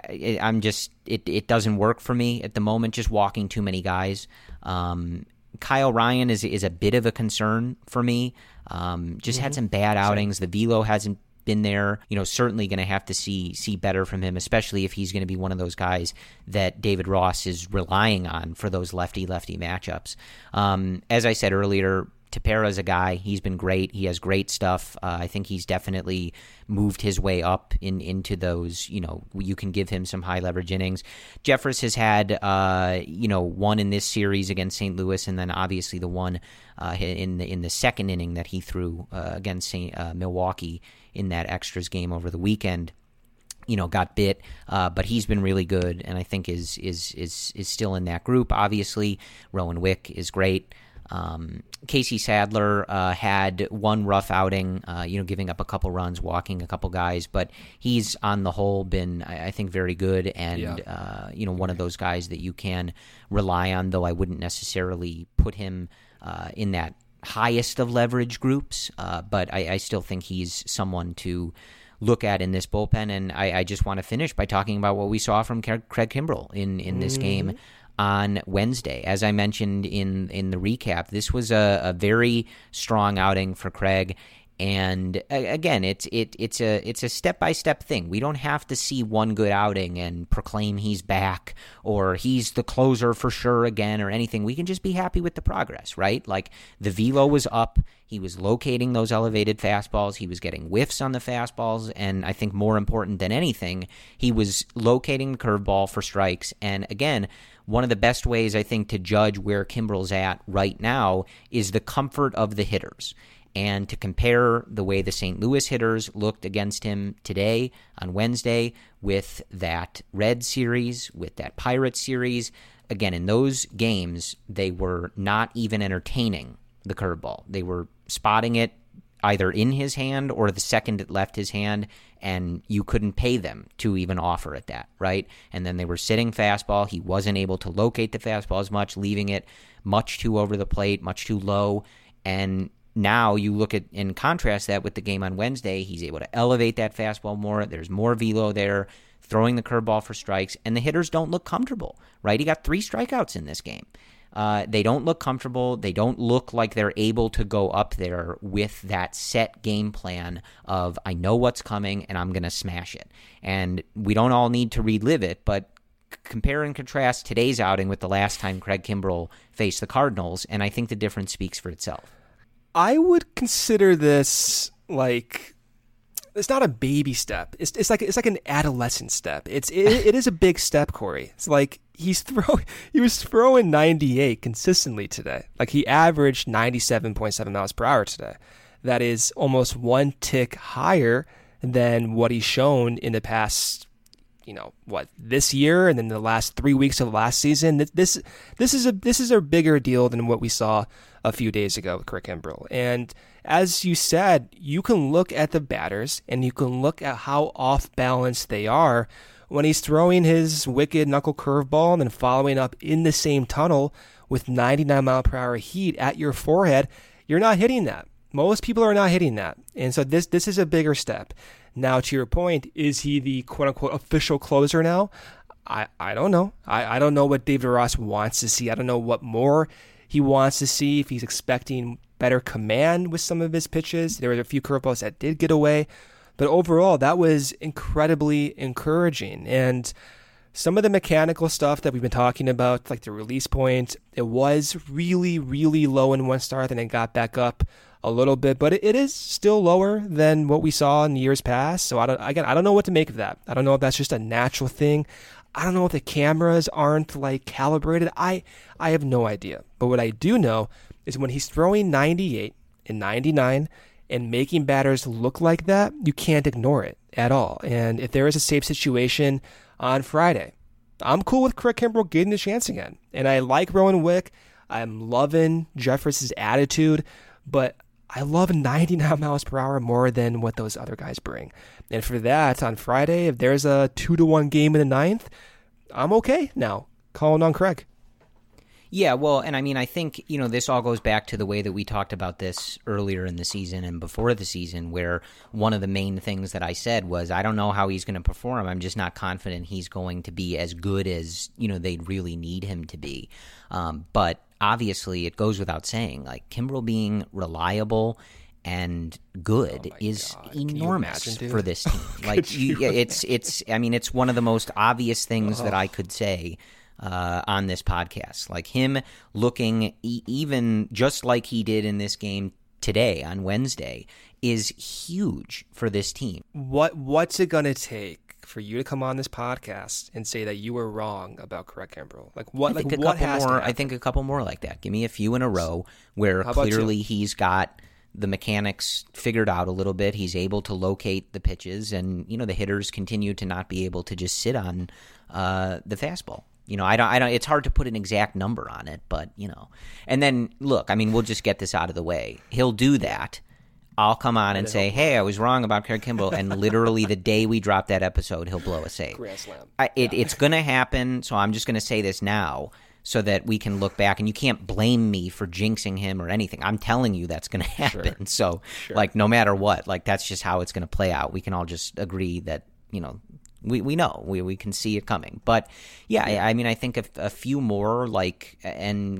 it doesn't work for me at the moment. Just walking too many guys. Kyle Ryan is a bit of a concern for me. Had some bad outings. The velo hasn't been there. Certainly going to have to see better from him, especially if he's going to be one of those guys that David Ross is relying on for those lefty-lefty matchups. As I said earlier, Tepera's a guy. He's been great. He has great stuff. I think he's definitely moved his way up into those, you can give him some high leverage innings. Jeffress has had, one in this series against St. Louis, and then obviously the one in the second inning that he threw against Milwaukee in that extras game over the weekend. Got bit, but he's been really good, and I think is still in that group. Obviously, Rowan Wick is great. Casey Sadler had one rough outing, giving up a couple runs, walking a couple guys, but he's on the whole been, I think, very good and, one of those guys that you can rely on, though I wouldn't necessarily put him in that highest of leverage groups, but I still think he's someone to look at in this bullpen, and I just want to finish by talking about what we saw from Craig Kimbrel in this game on Wednesday. As I mentioned in the recap, this was a very strong outing for Craig. And again, it's a step-by-step thing. We don't have to see one good outing and proclaim he's back or he's the closer for sure again or anything. We can just be happy with the progress, right? Like the velo was up. He was locating those elevated fastballs. He was getting whiffs on the fastballs. And I think more important than anything, he was locating the curveball for strikes. And again, one of the best ways I think to judge where Kimbrel's at right now is the comfort of the hitters. And to compare the way the St. Louis hitters looked against him today on Wednesday with that Red series, with that Pirates series, again, in those games, they were not even entertaining the curveball. They were spotting it either in his hand or the second it left his hand, and you couldn't pay them to even offer it that, right? And then they were sitting fastball. He wasn't able to locate the fastball as much, leaving it much too over the plate, much too low, and now you look at and contrast that with the game on Wednesday. He's able to elevate that fastball more. There's more velo there, throwing the curveball for strikes, and the hitters don't look comfortable, right? He got 3 strikeouts in this game. They don't look comfortable. They don't look like they're able to go up there with that set game plan of, I know what's coming and I'm going to smash it. And we don't all need to relive it, but compare and contrast today's outing with the last time Craig Kimbrel faced the Cardinals, and I think the difference speaks for itself. I would consider this like it's not a baby step. It's like an adolescent step. It is a big step, Corey. It's like he was throwing 98 consistently today. Like he averaged 97.7 miles per hour today. That is almost one tick higher than what he's shown in the past, this year and then the last 3 weeks of last season. This is a bigger deal than what we saw a few days ago with Craig Kimbrel. And as you said, you can look at the batters and you can look at how off balance they are when he's throwing his wicked knuckle curveball and then following up in the same tunnel with 99 mile per hour heat at your forehead. You're not hitting that. Most people are not hitting that. And so this is a bigger step. Now, to your point, is he the quote-unquote official closer now? I don't know. I don't know what David Ross wants to see. I don't know what more he wants to see, if he's expecting better command with some of his pitches. There were a few curveballs that did get away. But overall, that was incredibly encouraging. And some of the mechanical stuff that we've been talking about, like the release point, it was really, really low in one start, and it got back up a little bit, but it is still lower than what we saw in years past. So I don't know what to make of that. I don't know if that's just a natural thing. I don't know if the cameras aren't like calibrated. I have no idea. But what I do know is when he's throwing 98 and 99 and making batters look like that, you can't ignore it at all. And if there is a safe situation on Friday, I'm cool with Craig Kimbrel getting the chance again. And I like Rowan Wick. I'm loving Jeffress' attitude, but I love 99 miles per hour more than what those other guys bring. And for that, on Friday, if there's a 2-1 game in the ninth, I'm okay now calling on Craig. Yeah, well, and I mean, I think, this all goes back to the way that we talked about this earlier in the season and before the season, where one of the main things that I said was, I don't know how he's going to perform. I'm just not confident he's going to be as good as, they'd really need him to be. But obviously, it goes without saying, like Kimbrel being reliable and good is enormous for this team. Like it's one of the most obvious things that I could say on this podcast. Like him looking even just like he did in this game today on Wednesday is huge for this team. What's it gonna take for you to come on this podcast and say that you were wrong about Craig Kimbrel? Like what? I think like what has to happen? I think a couple more like that. Give me a few in a row where clearly he's got the mechanics figured out a little bit. He's able to locate the pitches, and the hitters continue to not be able to just sit on the fastball. I don't. It's hard to put an exact number on it, but And then look, we'll just get this out of the way. He'll do that. I'll come on and say, hey, I was wrong about Craig Kimbrel, and literally the day we drop that episode, he'll blow a save. Grand slam. It's going to happen, so I'm just going to say this now so that we can look back, and you can't blame me for jinxing him or anything. I'm telling you that's going to happen. Sure. So, no matter what, that's just how it's going to play out. We can all just agree that, we know. We can see it coming. But, I think a few more, again,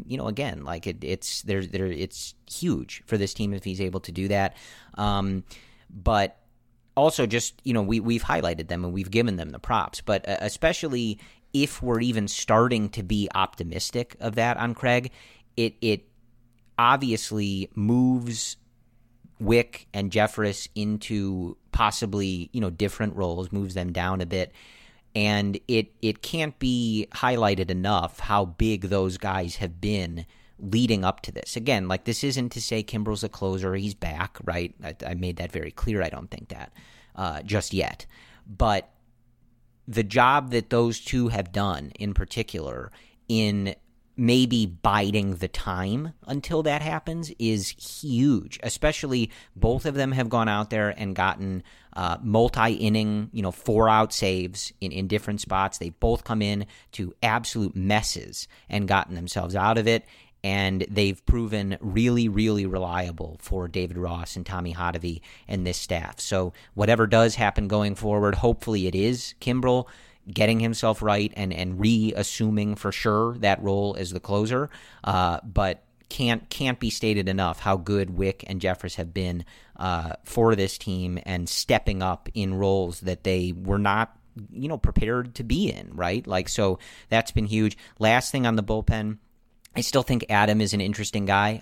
it's huge for this team if he's able to do that. But also just, we've highlighted them and we've given them the props. But especially if we're even starting to be optimistic of that on Craig, it obviously moves Wick and Jeffress into possibly, different roles, moves them down a bit. And it can't be highlighted enough how big those guys have been leading up to this. Again, this isn't to say Kimbrel's a closer. He's back, right? I made that very clear. I don't think that just yet. But the job that those two have done in particular in maybe biding the time until that happens is huge. Especially both of them have gone out there and gotten multi-inning, 4-out saves in different spots. They both come in to absolute messes and gotten themselves out of it. And they've proven really, really reliable for David Ross and Tommy Hotovy and this staff. So whatever does happen going forward, hopefully it is Kimbrel getting himself right and reassuming for sure that role as the closer, but can't be stated enough how good Wick and Jeffress have been for this team and stepping up in roles that they were not prepared to be in, right? So that's been huge. Last thing on the bullpen, I still think Adam is an interesting guy.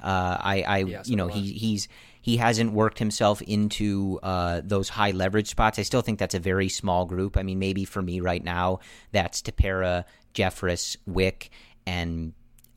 He hasn't worked himself into those high leverage spots. I still think that's a very small group. Maybe for me right now, that's Tepera, Jeffress, Wick, and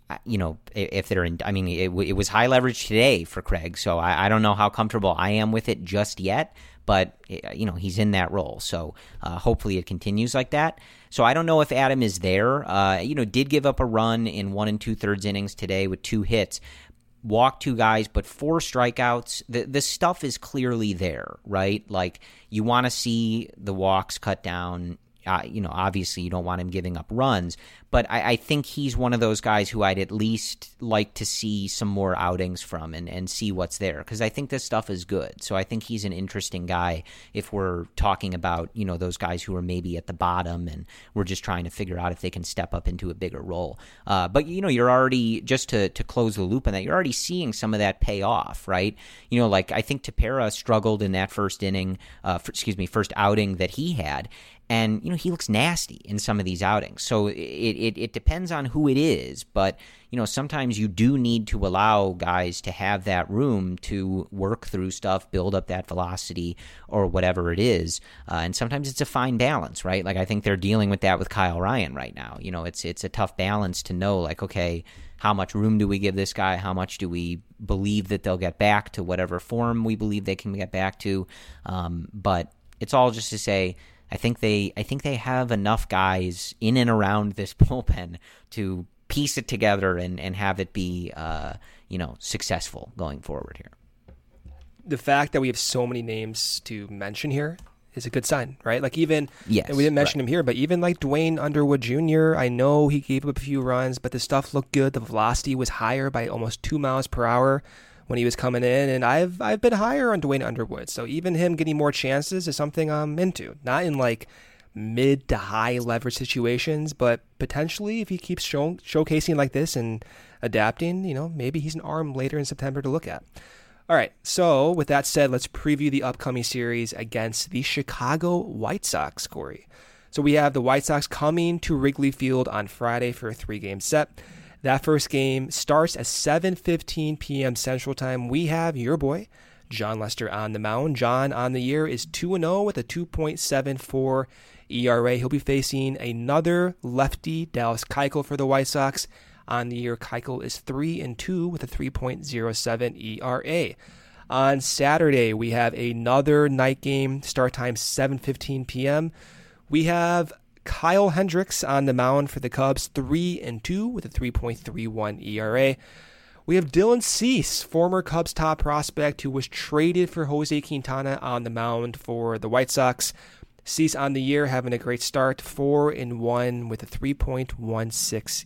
if they're in. It was high leverage today for Craig, so I don't know how comfortable I am with it just yet. But he's in that role, so hopefully it continues like that. So I don't know if Adam is there. Did give up a run in 1 2/3 innings today with 2 hits. Walked 2 guys, but 4 strikeouts. The stuff is clearly there, right? You want to see the walks cut down. Obviously you don't want him giving up runs, but I think he's one of those guys who I'd at least like to see some more outings from and see what's there, because I think this stuff is good. So I think he's an interesting guy if we're talking about, those guys who are maybe at the bottom and we're just trying to figure out if they can step up into a bigger role. But, you're already, just to close the loop on that, you're already seeing some of that pay off, right? I think Tepera struggled in that first outing that he had. And, he looks nasty in some of these outings. So it depends on who it is. But, sometimes you do need to allow guys to have that room to work through stuff, build up that velocity or whatever it is. And sometimes it's a fine balance, right? I think they're dealing with that with Kyle Ryan right now. It's a tough balance to know, okay, how much room do we give this guy? How much do we believe that they'll get back to whatever form we believe they can get back to? But it's all just to say, I think they have enough guys in and around this bullpen to piece it together and have it be successful going forward here. The fact that we have so many names to mention here is a good sign, right? And we didn't mention him here, but even Dwayne Underwood Jr., I know he gave up a few runs, but the stuff looked good. The velocity was higher by almost 2 miles per hour when he was coming in, and I've been higher on Dwayne Underwood. So even him getting more chances is something I'm into. Not in mid to high leverage situations, but potentially if he keeps showcasing like this and adapting, maybe he's an arm later in September to look at. All right, so with that said, let's preview the upcoming series against the Chicago White Sox, Corey. So we have the White Sox coming to Wrigley Field on Friday for a 3-game set. That first game starts at 7:15 p.m. Central Time. We have your boy, Jon Lester, on the mound. John on the year is 2-0 with a 2.74 ERA. He'll be facing another lefty, Dallas Keuchel, for the White Sox. On the year, Keuchel is 3-2 with a 3.07 ERA. On Saturday, we have another night game, start time 7:15 p.m. We have Kyle Hendricks on the mound for the Cubs, 3-2 with a 3.31 ERA. We have Dylan Cease, former Cubs top prospect who was traded for Jose Quintana, on the mound for the White Sox. Cease on the year having a great start, 4-1 with a 3.16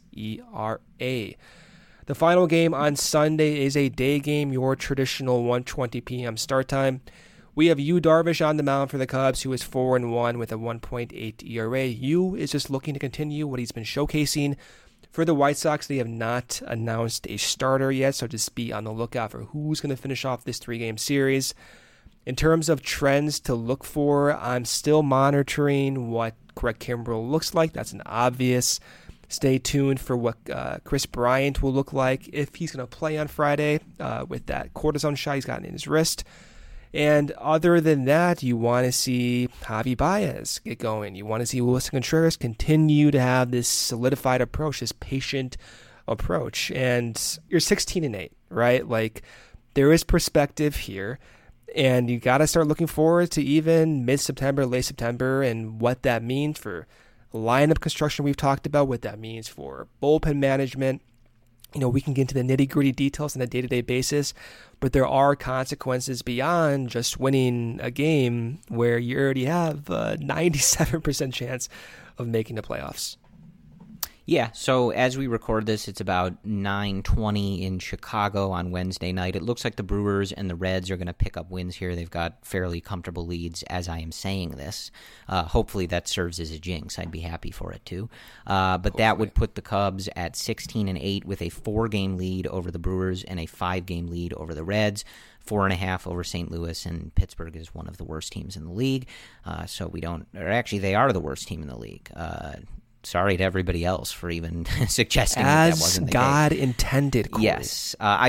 ERA. The final game on Sunday is a day game, your traditional 1:20 p.m. start time. We have Yu Darvish on the mound for the Cubs, who is 4-1 with a 1.8 ERA. Yu is just looking to continue what he's been showcasing. For the White Sox, they have not announced a starter yet, so just be on the lookout for who's going to finish off this 3-game series. In terms of trends to look for, I'm still monitoring what Craig Kimbrell looks like. That's an obvious. Stay tuned for what Kris Bryant will look like if he's going to play on Friday with that cortisone shot he's gotten in his wrist. And other than that, you want to see Javi Baez get going. You want to see Wilson Contreras continue to have this solidified approach, this patient approach. And you're 16-8, right? Like, there is perspective here. And you got to start looking forward to even mid-September, late September, and what that means for lineup construction we've talked about, what that means for bullpen management. You know, we can get into the nitty-gritty details on a day-to-day basis, but there are consequences beyond just winning a game where you already have a 97% chance of making the playoffs. Yeah, so as we record this, it's about 9:20 in Chicago on Wednesday night. It looks like the Brewers and the Reds are going to pick up wins here. They've got fairly comfortable leads as I am saying this. Hopefully that serves as a jinx. I'd be happy for it too. But that would put the Cubs at 16-8 with a 4-game lead over the Brewers and a 5-game lead over the Reds. 4.5 over St. Louis, and Pittsburgh is one of the worst teams in the league. So we don't, or actually they are the worst team in the league. Sorry to everybody else for even suggesting that wasn't the God case. Intended, Corey. Yes. I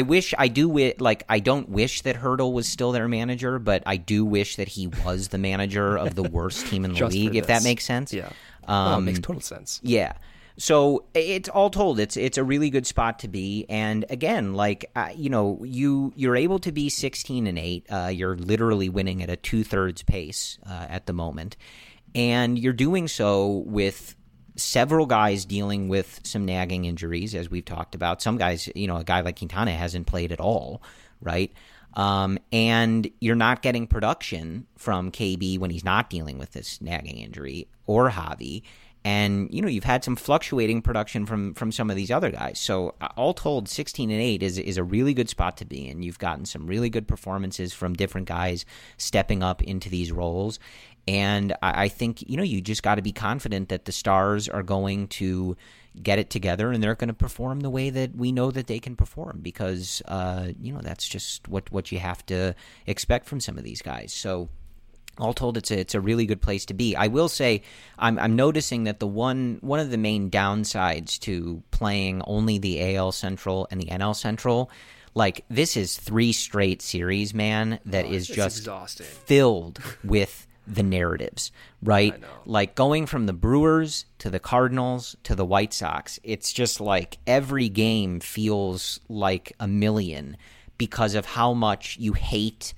don't wish that Hurdle was still their manager, but I do wish that he was the manager of the worst team in the league, if that makes sense. Yeah. It makes total sense. Yeah. So it's all told. It's a really good spot to be. And again, you're able to be 16-8. You're literally winning at a 2/3 pace at the moment. And you're doing so with several guys dealing with some nagging injuries, as we've talked about. Some guys, a guy like Quintana hasn't played at all, right? And you're not getting production from KB when he's not dealing with this nagging injury, or Javi. And, you've had some fluctuating production from some of these other guys. So all told, 16-8 is a really good spot to be in. You've gotten some really good performances from different guys stepping up into these roles. And I think, you just got to be confident that the Stars are going to get it together and they're going to perform the way that we know that they can perform, because, that's just what you have to expect from some of these guys. So all told, it's a really good place to be. I will say I'm noticing that one of the main downsides to playing only the AL Central and the NL Central, like, this is 3 straight series, man, that is just exhausting, filled with the narratives, right? Like, going from the Brewers to the Cardinals to the White Sox, it's just like every game feels like a million because of how much you hate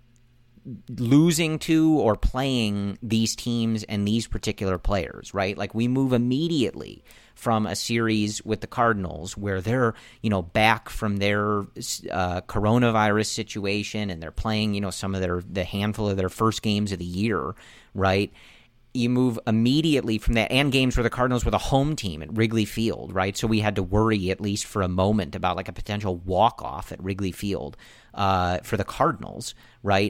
losing to or playing these teams and these particular players, right? Like, we move immediately from a series with the Cardinals where they're, back from their coronavirus situation and they're playing, some of the handful of their first games of the year, right? You move immediately from that, and games where the Cardinals were the home team at Wrigley Field, right? So we had to worry, at least for a moment, about like a potential walk-off at Wrigley Field for the Cardinals, right?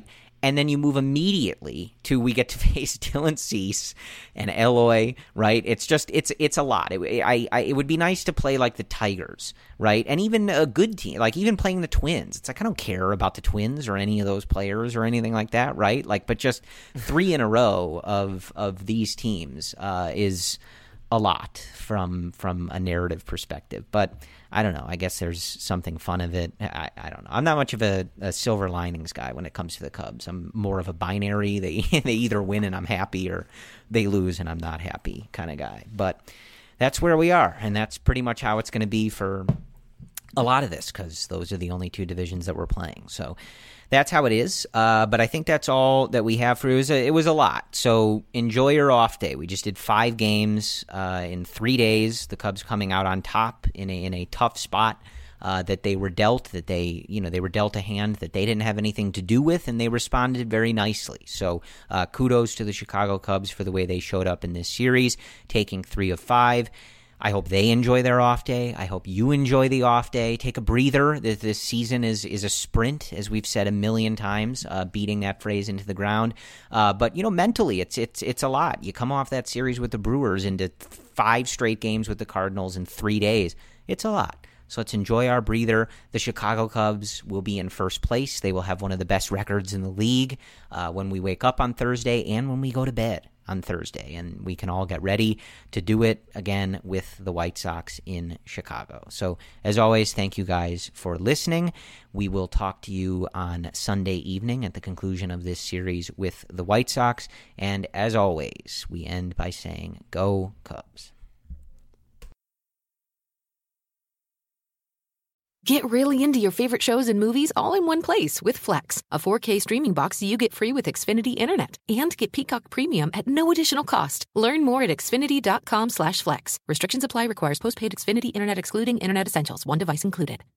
And then you move immediately to we get to face Dylan Cease and Eloy, right? It's just it's a lot. It would be nice to play like the Tigers, right? And even a good team, like even playing the Twins. It's like I don't care about the Twins or any of those players or anything like that, right? Like, but just 3 in a row of these teams is a lot from a narrative perspective. But I don't know. I guess there's something fun of it. I don't know. I'm not much of a silver linings guy when it comes to the Cubs. I'm more of a binary. They either win and I'm happy, or they lose and I'm not happy kind of guy. But that's where we are, and that's pretty much how it's going to be for a lot of this, because those are the only 2 divisions that we're playing. So that's how it is. But I think that's all that we have for you. It was a lot. So enjoy your off day. We just did 5 games in 3 days. The Cubs coming out on top in a tough spot that they were dealt. That they were dealt a hand that they didn't have anything to do with, and they responded very nicely. So kudos to the Chicago Cubs for the way they showed up in this series, taking 3 of 5. I hope they enjoy their off day. I hope you enjoy the off day. Take a breather. This season is a sprint, as we've said a million times, beating that phrase into the ground. But mentally, it's a lot. You come off that series with the Brewers into 5 straight games with the Cardinals in 3 days. It's a lot. So let's enjoy our breather. The Chicago Cubs will be in first place. They will have one of the best records in the league when we wake up on Thursday and when we go to bed on Thursday, and we can all get ready to do it again with the White Sox in Chicago. So as always, thank you guys for listening. We will talk to you on Sunday evening at the conclusion of this series with the White Sox, and as always, we end by saying, go Cubs. Get really into your favorite shows and movies all in one place with Flex, a 4K streaming box you get free with Xfinity Internet. And get Peacock Premium at no additional cost. Learn more at Xfinity.com/Flex. Restrictions apply. Requires postpaid Xfinity Internet excluding Internet Essentials. One device included.